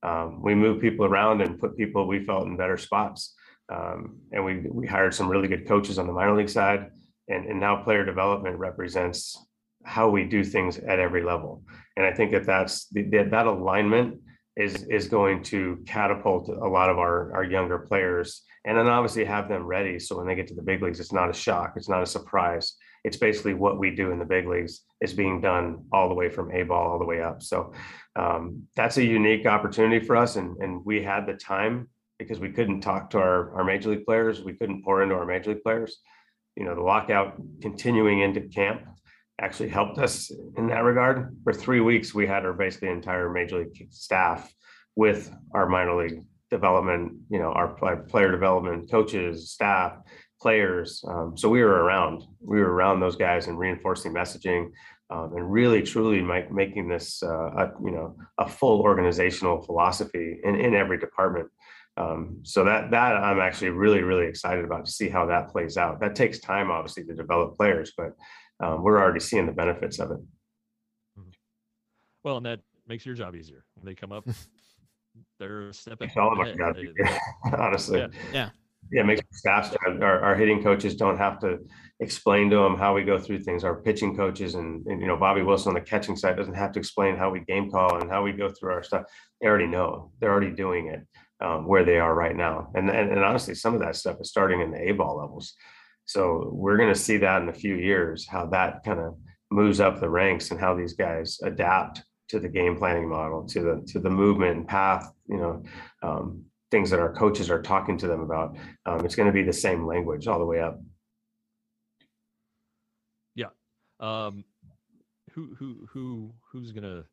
Um, we moved people around and put people we felt in better spots. Um, and we we hired some really good coaches on the minor league side. And, and now player development represents how we do things at every level. And I think that that's that, that alignment is is going to catapult a lot of our, our younger players, and then obviously have them ready. So when they get to the big leagues, it's not a shock. It's not a surprise. It's basically what we do in the big leagues is being done all the way from A ball all the way up. So um, that's a unique opportunity for us. And, and we had the time because we couldn't talk to our, our major league players. We couldn't pour into our major league players. You know, the lockout continuing into camp actually helped us in that regard. For three weeks, we had our basically entire major league staff with our minor league development, you know, our player development coaches, staff, players. Um, so we were around, we were around those guys and reinforcing messaging um, and really truly make, making this, uh, a, you know, a full organizational philosophy in, in every department. Um, so that, that I'm actually really, really excited about to see how that plays out. That takes time, obviously, to develop players, but um, we're already seeing the benefits of it. Well, and that makes your job easier. When they come up, they're stepping It's all of our ahead. job, They- they- honestly. Yeah. Yeah. Yeah, it makes our staff, our, our hitting coaches don't have to explain to them how we go through things. Our pitching coaches and, and, you know, Bobby Wilson on the catching side doesn't have to explain how we game call and how we go through our stuff. They already know. They're already doing it um, where they are right now. And, and, and honestly, some of that stuff is starting in the A-ball levels. So we're going to see that in a few years, how that kind of moves up the ranks and how these guys adapt to the game planning model, to the to the movement and path, you know, um, things that our coaches are talking to them about. Um, it's going to be the same language all the way up. Yeah. Um, who who who who's gonna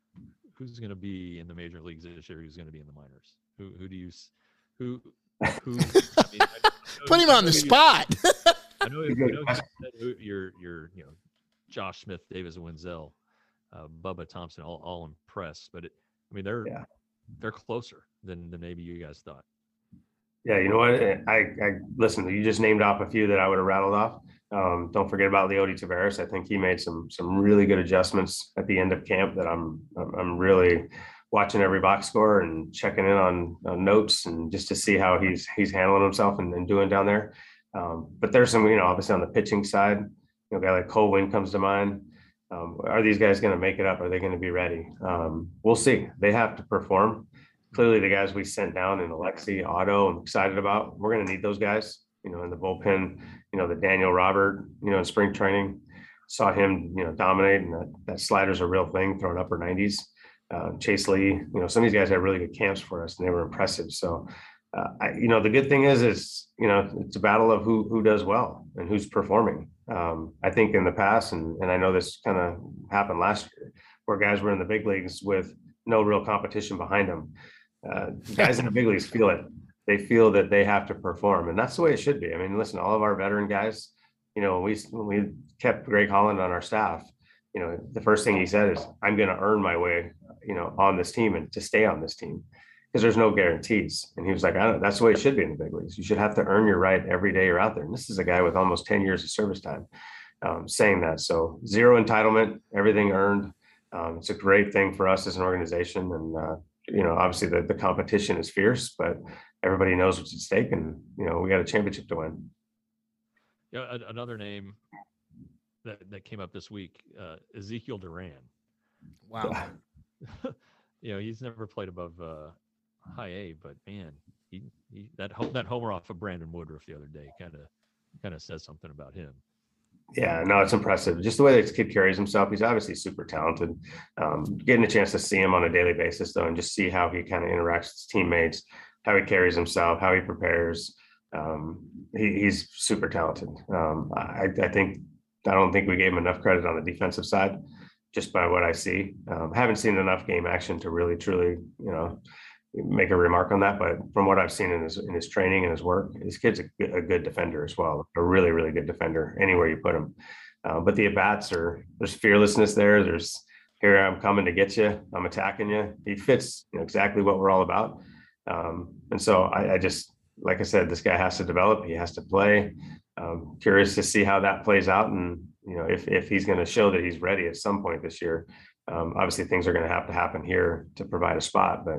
who's gonna be in the major leagues this year? Who's gonna be in the minors? Who who do you s- who who? I mean, I know- Put him I on know the you- spot. I know, you know you said who- you're you're you know Josh Smith, Davis Wenzel, uh, Bubba Thompson, all all impressed, but it, I mean they're Yeah. they're closer than than maybe you guys thought. Yeah, you know what? I, I listen. You just named off a few that I would have rattled off. Um, don't forget about Leody Taveras. I think he made some some really good adjustments at the end of camp that I'm I'm I'm really watching every box score and checking in on, on notes and just to see how he's he's handling himself and, and doing down there. Um, but there's some, you know, obviously on the pitching side, you know, a guy like Cole Winn comes to mind. Um, are these guys going to make it up? Are they going to be ready? Um, we'll see. They have to perform. Clearly, the guys we sent down in Alexi, Otto, I'm excited about. We're going to need those guys, you know, in the bullpen. You know, the Daniel Robert, you know, in spring training, saw him, you know, dominate, and that, that slider's a real thing, throwing upper nineties. Uh, Chase Lee, you know, some of these guys had really good camps for us, and they were impressive. So, uh, I, you know, the good thing is, is you know, it's a battle of who who does well and who's performing. Um, I think in the past, and and I know this kind of happened last year, where guys were in the big leagues with no real competition behind them. Uh, guys in the big leagues feel it. They feel that they have to perform, and that's the way it should be. I mean, listen, all of our veteran guys, you know, we when we kept Greg Holland on our staff, you know, the first thing he said is, "I'm going to earn my way, you know, on this team and to stay on this team, because there's no guarantees." And he was like, "I don't. That's the way it should be in the big leagues. You should have to earn your right every day you're out there." And this is a guy with almost ten years of service time um, saying that. So zero entitlement, everything earned. Um, it's a great thing for us as an organization, and uh, you know, obviously the, the competition is fierce, but everybody knows what's at stake, and you know, we got a championship to win. Yeah, a- another name that that came up this week, uh, Ezekiel Duran. Wow. You know, he's never played above uh, high A, but man, he, he that ho- that homer off of Brandon Woodruff the other day kind of kind of says something about him. Yeah, no, it's impressive. Just the way this kid carries himself. He's obviously super talented. Um, getting a chance to see him on a daily basis, though, and just see how he kind of interacts with his teammates, how he carries himself, how he prepares. Um, he, he's super talented. Um, I, I think I don't think we gave him enough credit on the defensive side, just by what I see. Um, haven't seen enough game action to really, truly, you know, make a remark on that. But from what I've seen in his in his training and his work, this kid's a, good- a good defender as well. A really, really good defender anywhere you put him. Uh, but the at bats are there's fearlessness there. There's here I'm coming to get you. I'm attacking you. He fits, you know, exactly what we're all about. Um, and so I, I just like I said, this guy has to develop. He has to play. Um, curious to see how that plays out, and you know if if he's going to show that he's ready at some point this year. Um, obviously, things are going to have to happen here to provide a spot, but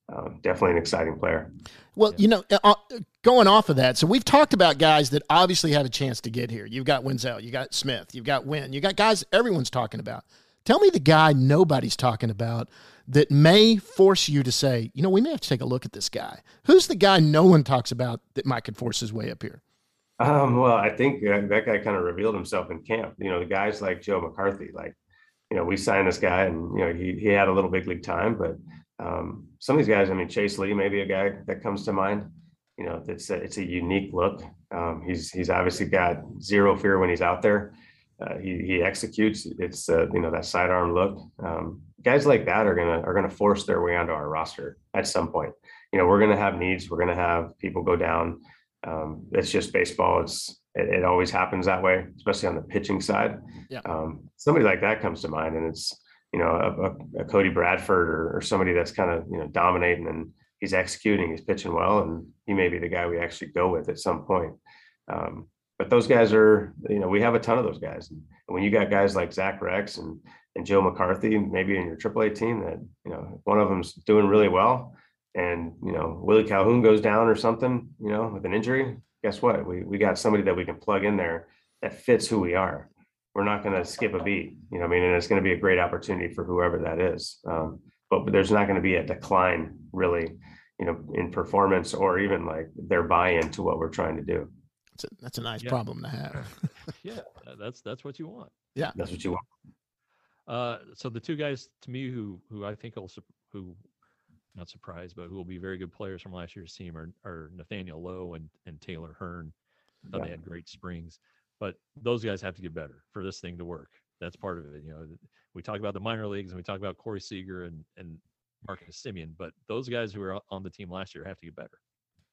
uh, definitely an exciting player. Well, you know, uh, going off of that, so we've talked about guys that obviously have a chance to get here. You've got Wenzel, you got Smith, you've got Wynn, you got guys everyone's talking about. Tell me the guy nobody's talking about that may force you to say, you know, we may have to take a look at this guy. Who's the guy no one talks about that might could force his way up here? Um, well, I think uh, that guy kind of revealed himself in camp. You know, the guys like Joe McCarthy, like, you know, we signed this guy and, you know, he, he had a little big league time, but um, some of these guys, I mean, Chase Lee, maybe a guy that comes to mind, you know, it's a, it's a unique look. Um, he's, he's obviously got zero fear when he's out there. Uh, he, he executes. It's, uh, you know, that sidearm look. Um, guys like that are going to, are going to force their way onto our roster at some point. You know, we're going to have needs. We're going to have people go down. Um, it's just baseball. It's, it, it always happens that way, especially on the pitching side. Yeah. Um, somebody like that comes to mind, and it's, you know, a, a, a Cody Bradford or, or somebody that's kind of, you know, dominating, and he's executing, he's pitching well, and he may be the guy we actually go with at some point. Um, but those guys are, you know, we have a ton of those guys. And when you got guys like Zach Rex and, and Joe McCarthy, maybe in your triple A team that, you know, one of them's doing really well, and, you know, Willie Calhoun goes down or something, you know, with an injury, guess what? We, we got somebody that we can plug in there that fits who we are. We're not going to skip a beat, you know what I mean? And it's going to be a great opportunity for whoever that is. Um, but there's not going to be a decline really, you know, in performance or even like their buy-in to what we're trying to do. That's a, that's a nice Yeah. problem to have. Yeah, that's that's what you want. Yeah. That's what you want. Uh, so the two guys to me who who I think will sup- who not surprised, but who will be very good players from last year's team are, are Nathaniel Lowe and, and Taylor Hearn. I thought Yeah. they had great springs, but those guys have to get better for this thing to work. That's part of it. You know, we talk about the minor leagues and we talk about Corey Seager and, and Marcus Simeon, but those guys who were on the team last year have to get better.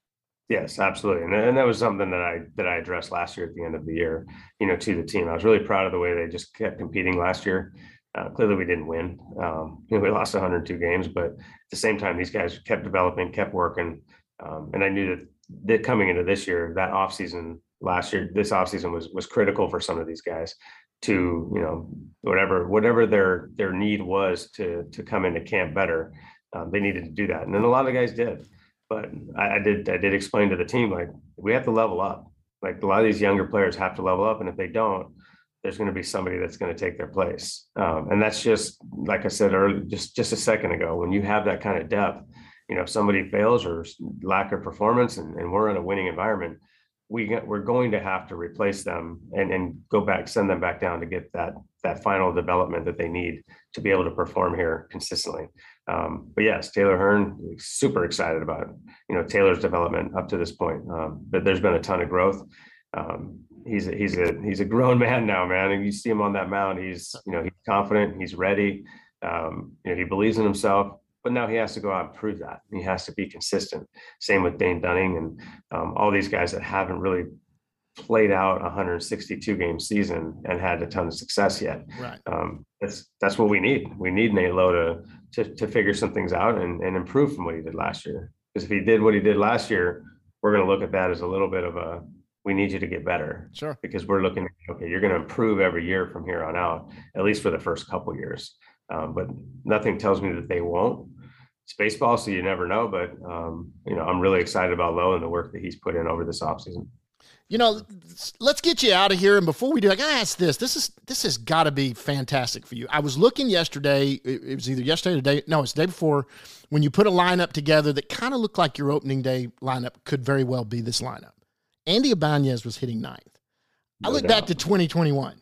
Yes, absolutely. And, and that was something that I that I addressed last year at the end of the year, you know, to the team. I was really proud of the way they just kept competing last year. Uh, clearly we didn't win. Um, you know, we lost one hundred two games, but at the same time, these guys kept developing, kept working. Um, and I knew that, that coming into this year, that offseason last year, this offseason was was critical for some of these guys to, you know, whatever whatever their their need was to to come into camp better. Um, they needed to do that. And then a lot of guys did. But I, I did I did explain to the team, like, we have to level up. Like, a lot of these younger players have to level up. And if they don't, there's going to be somebody that's going to take their place. Um, and that's just, like I said earlier, just, just a second ago, when you have that kind of depth, you know, if somebody fails or lack of performance and, and we're in a winning environment, we get, we're going to have to replace them and, and go back, send them back down to get that, that final development that they need to be able to perform here consistently. Um, but yes, Taylor Hearn, super excited about, you know, Taylor's development up to this point. Um, but there's been a ton of growth. Um, he's a, he's a he's a grown man now, man. And you see him on that mound. He's, you know, he's confident. He's ready. Um, you know, he believes in himself. But now he has to go out and prove that. He has to be consistent. Same with Dane Dunning and um, all these guys that haven't really played out a one hundred sixty-two game season and had a ton of success yet. Right. Um, that's that's what we need. We need Nate Lowe to to to figure some things out and, and improve from what he did last year. Because if he did what he did last year, we're going to look at that as a little bit of a, we need you to get better. Sure. Because we're looking at, okay, you're going to improve every year from here on out, at least for the first couple years. Um, but nothing tells me that they won't. It's baseball, so you never know. But, um, you know, I'm really excited about Lowe and the work that he's put in over this offseason. You know, let's get you out of here. And before we do, I gotta ask this. This is this has got to be fantastic for you. I was looking yesterday. It, it was either yesterday or the day. No, it's the day before. When you put a lineup together that kind of looked like your opening day lineup could very well be this lineup. Andy Ibanez was hitting ninth. I No look doubt. back to twenty twenty-one.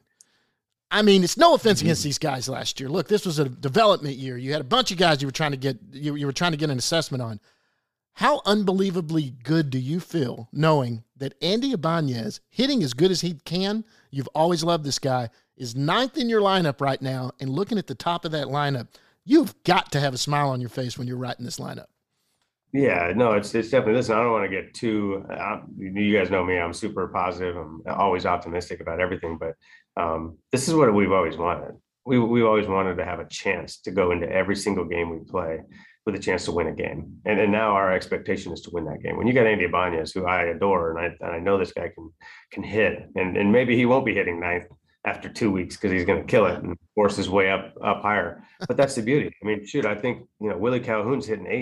I mean, it's no offense against these guys last year. Look, this was a development year. You had a bunch of guys you were trying to get you, you were trying to get an assessment on. How unbelievably good do you feel knowing that Andy Ibanez, hitting as good as he can, you've always loved this guy, is ninth in your lineup right now, and looking at the top of that lineup, you've got to have a smile on your face when you're writing this lineup. Yeah, no, it's it's definitely, listen, I don't want to get too, uh, you guys know me, I'm super positive. I'm always optimistic about everything, but um, this is what we've always wanted. We, we've always wanted to have a chance to go into every single game we play with a chance to win a game. And, and now our expectation is to win that game. When you got Andy Ibanez, who I adore, and I, and I know this guy can can hit, and, and maybe he won't be hitting ninth after two weeks because he's going to kill it and force his way up up higher. But that's the beauty. I mean, shoot, I think, you know, Willie Calhoun's hitting eighth.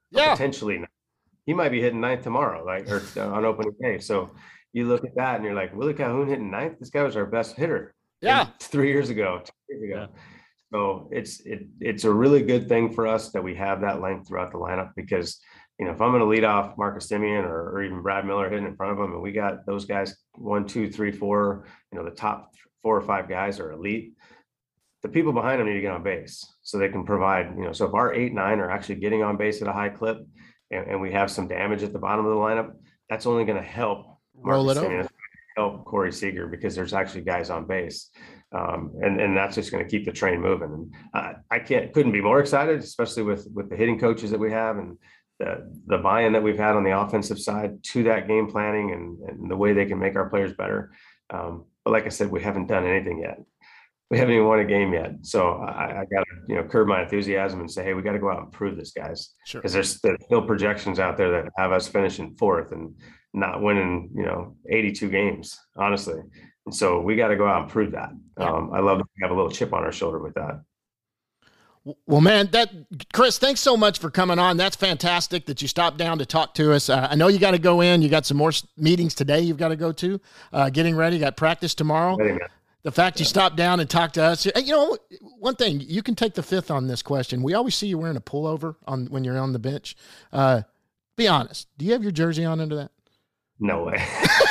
Yeah. Potentially ninth. He might be hitting ninth tomorrow, like or uh, on opening day. So you look at that and you're like, Willie Calhoun hitting ninth. This guy was our best hitter. Yeah. Three years ago, two years ago. Yeah. So it's it it's a really good thing for us that we have that length throughout the lineup because you know if I'm going to lead off Marcus Simeon or, or even Brad Miller hitting in front of him, and we got those guys one, two, three, four, you know the top four or five guys are elite. The people behind them need to get on base so they can provide. You know, so if our eight, nine are actually getting on base at a high clip, and, and we have some damage at the bottom of the lineup, that's only going to help Roll Marcus it Simeon, over. help Corey Seager because there's actually guys on base. Um, and, and that's just going to keep the train moving. And uh, I can't, couldn't be more excited, especially with, with the hitting coaches that we have and the, the buy-in that we've had on the offensive side to that game planning and, and the way they can make our players better. Um, but like I said, we haven't done anything yet. We haven't even won a game yet. So I, I got to, you know, curb my enthusiasm and say, hey, we got to go out and prove this, guys. Sure. Because there's, there's still projections out there that have us finishing fourth and not winning, you know, eighty-two games, honestly. And so we got to go out and prove that. Um, I love that we have a little chip on our shoulder with that. Well, man, that Chris, thanks so much for coming on. That's fantastic that you stopped down to talk to us. Uh, I know you got to go in. You got some more meetings today you've got to go to. Uh, getting ready. You got practice tomorrow. Ready, man. The fact you stopped down and talked to us, you know, one thing, you can take the fifth on this question. We always see you wearing a pullover on when you're on the bench. Uh, be honest. Do you have your jersey on under that? No way.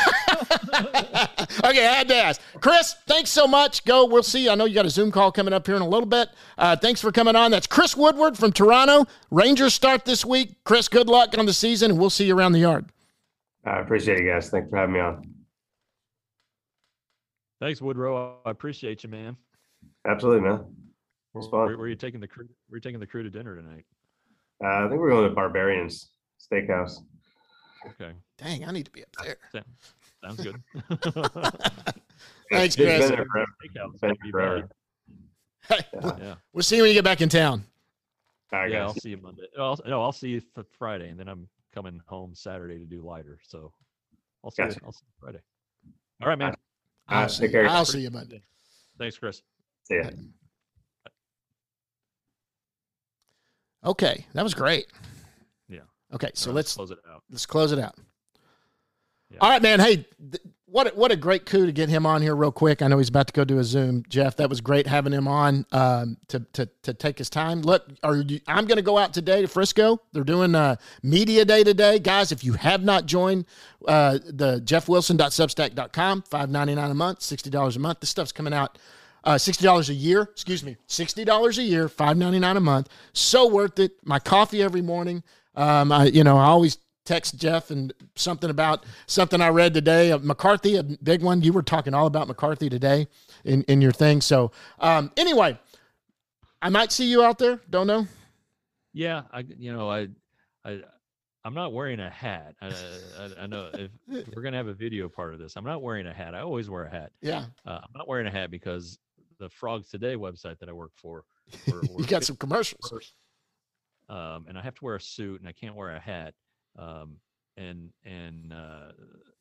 Okay, I had to ask. Chris, thanks so much. Go. We'll see. I know you got a Zoom call coming up here in a little bit. Uh, thanks for coming on. That's Chris Woodward from Toronto. Rangers start this week. Chris, good luck on the season, and we'll see you around the yard. I appreciate you guys. Thanks for having me on. Thanks, Woodrow. I appreciate you, man. Absolutely, man. It's fun. Where, where are you taking the crew? Where are you taking the crew to dinner tonight? Uh, I think we're going to Barbarians Steakhouse. Okay, Dang, I need to be up there. Sa- sounds good. Thanks, It's Chris. been there forever. Steakhouse, Been that'd be forever. Hey, Yeah. Yeah, we'll see you when you get back in town. All right, yeah. guys. I'll see you Monday. I'll, no, I'll see you th- Friday, and then I'm coming home Saturday to do lighter. So I'll see Gotcha. you. I'll see you Friday. All right, man. I'll, Uh, see, take care. I'll see you Monday. Thanks, Chris. See ya. Okay, that was great. Yeah. Okay, so All right, let's close it out. let's close it out. Yeah. All right, man. Hey, th- what a, what a great coup to get him on here real quick. I know he's about to go do a Zoom. Jeff, that was great having him on um, to, to to take his time. Look, are you, I'm going to go out today to Frisco. They're doing uh, media day today, guys. If you have not joined uh, the jeff wilson dot substack dot com, five ninety-nine a month, sixty dollars a month. This stuff's coming out. Uh, sixty dollars a year, excuse me, sixty dollars a year, five ninety-nine a month. So worth it. My coffee every morning. Um, I, you know, I always text Jeff and something about something I read today. Uh, McCarthy, a big one. You were talking all about McCarthy today in, in your thing. So um, anyway, I might see you out there. Don't know. Yeah, I you know I I I'm not wearing a hat. I I, I know if, if we're gonna have a video part of this, I'm not wearing a hat. I always wear a hat. Yeah. Uh, I'm not wearing a hat because the Frogs Today website that I work for, we're, we're You got some commercials. first, um, and I have to wear a suit and I can't wear a hat. Um, and and uh,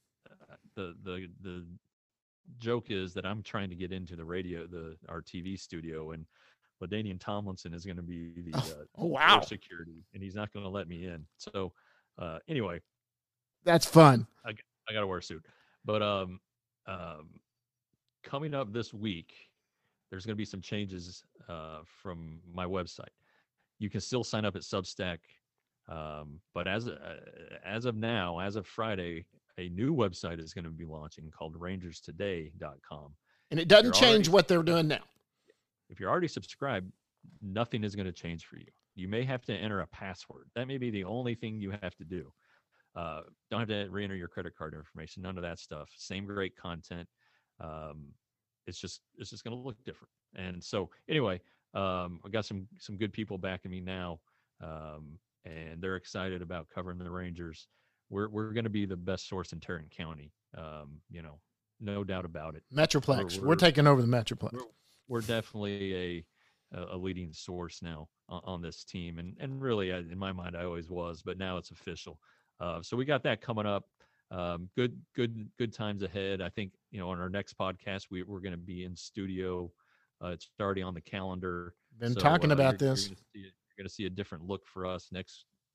the the the joke is that I'm trying to get into the radio, the our T V studio, and LaDainian Tomlinson is going to be the uh, Oh, wow. door security, and he's not going to let me in. So uh, anyway, That's fun. I got to wear a suit. But um, um, coming up this week, there's going to be some changes uh, from my website. You can still sign up at Substack, um, but as uh, as of now, as of Friday, a new website is going to be launching called rangers today dot com. And it doesn't You're change already- what they're doing now. If you're already subscribed, nothing is going to change for you. You may have to enter a password. That may be the only thing you have to do. Uh, don't have to re-enter your credit card information. None of that stuff. Same great content. Um, it's just it's just going to look different. And so anyway, um, I got some some good people backing me now, um, and they're excited about covering the Rangers. We're we're going to be the best source in Tarrant County. Um, you know, no doubt about it. Metroplex. We're- We're, we're- taking over the Metroplex. We're, we're definitely a a leading source now on, on this team, and and really, I, in my mind, I always was, but now it's official. Uh, so we got that coming up. Um, good, good, good times ahead. I think you know on our next podcast we we're going to be in studio. Uh, it's already on the calendar. Been So, talking uh, about you're, this. You're going to see a different look for us next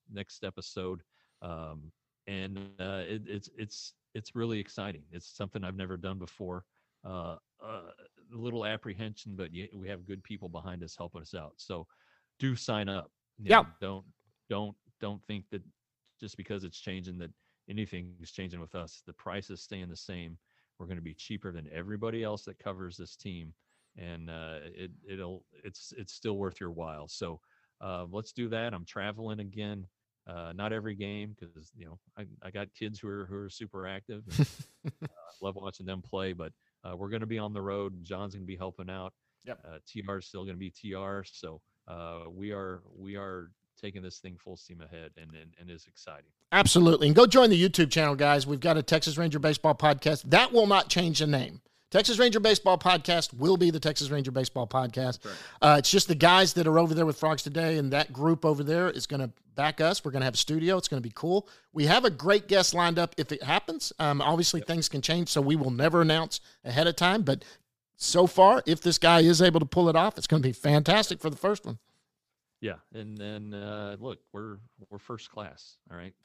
next episode. Um, and uh, it, it's it's it's really exciting. It's something I've never done before. Uh, uh, a little apprehension, but y- we have good people behind us helping us out. So do sign up. You Yeah. know, don't don't don't think that just because it's changing that anything is changing with us. The price is staying the same. We're going to be cheaper than everybody else that covers this team, and uh, it it'll it's it's still worth your while. So uh, let's do that. I'm traveling again. Uh, not every game because you know I, I got kids who are who are super active. And, uh, love watching them play, but uh, we're going to be on the road. John's going to be helping out. Yep. Uh, T R is still going to be T R. So uh, we are we are taking this thing full steam ahead, and and, and it's exciting. Absolutely. And go join the YouTube channel, guys. We've got a Texas Ranger Baseball podcast. That will not change the name. Texas Ranger Baseball Podcast will be the Texas Ranger Baseball Podcast. Right. Uh, it's just the guys that are over there with Frogs Today, and that group over there is going to back us. We're going to have a studio. It's going to be cool. We have a great guest lined up if it happens. Um, obviously, yep. things can change, so we will never announce ahead of time. But so far, if this guy is able to pull it off, it's going to be fantastic for the first one. Yeah, and then uh, look, we're we're first class. All right.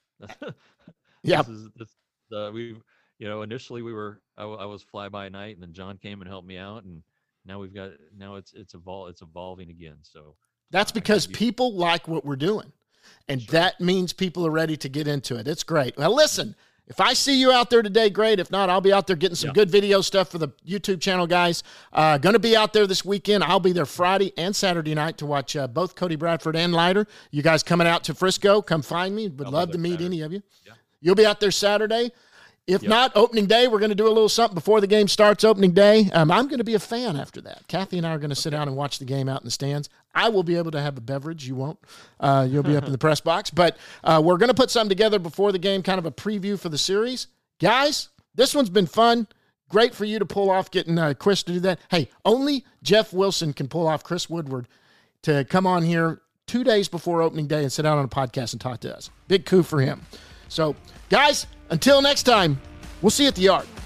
Yeah. This is this, uh, we. You know, initially we were, I, I was fly by night, and then John came and helped me out, and now we've got, now it's it's evol- it's evolving again. So that's because people like what we're doing, and sure. that means people are ready to get into it. It's great. Well, listen, if I see you out there today, great. If not, I'll be out there getting some yeah. good video stuff for the YouTube channel, guys. Uh, going to be out there this weekend. I'll be there Friday and Saturday night to watch uh, both Cody Bradford and Leiter. You guys coming out to Frisco? Come find me. Would I'll love to meet Saturday. any of you. Yeah. You'll be out there Saturday. If Yep. not, opening day, we're going to do a little something before the game starts opening day. Um, I'm going to be a fan after that. Kathy and I are going to sit down and watch the game out in the stands. I will be able to have a beverage. You won't. Uh, you'll be up in the press box. But uh, we're going to put something together before the game, kind of a preview for the series. Guys, this one's been fun. Great for you to pull off getting uh, Chris to do that. Hey, only Jeff Wilson can pull off Chris Woodward to come on here two days before opening day and sit down on a podcast and talk to us. Big coup for him. So, guys, until next time, we'll see you at the yard.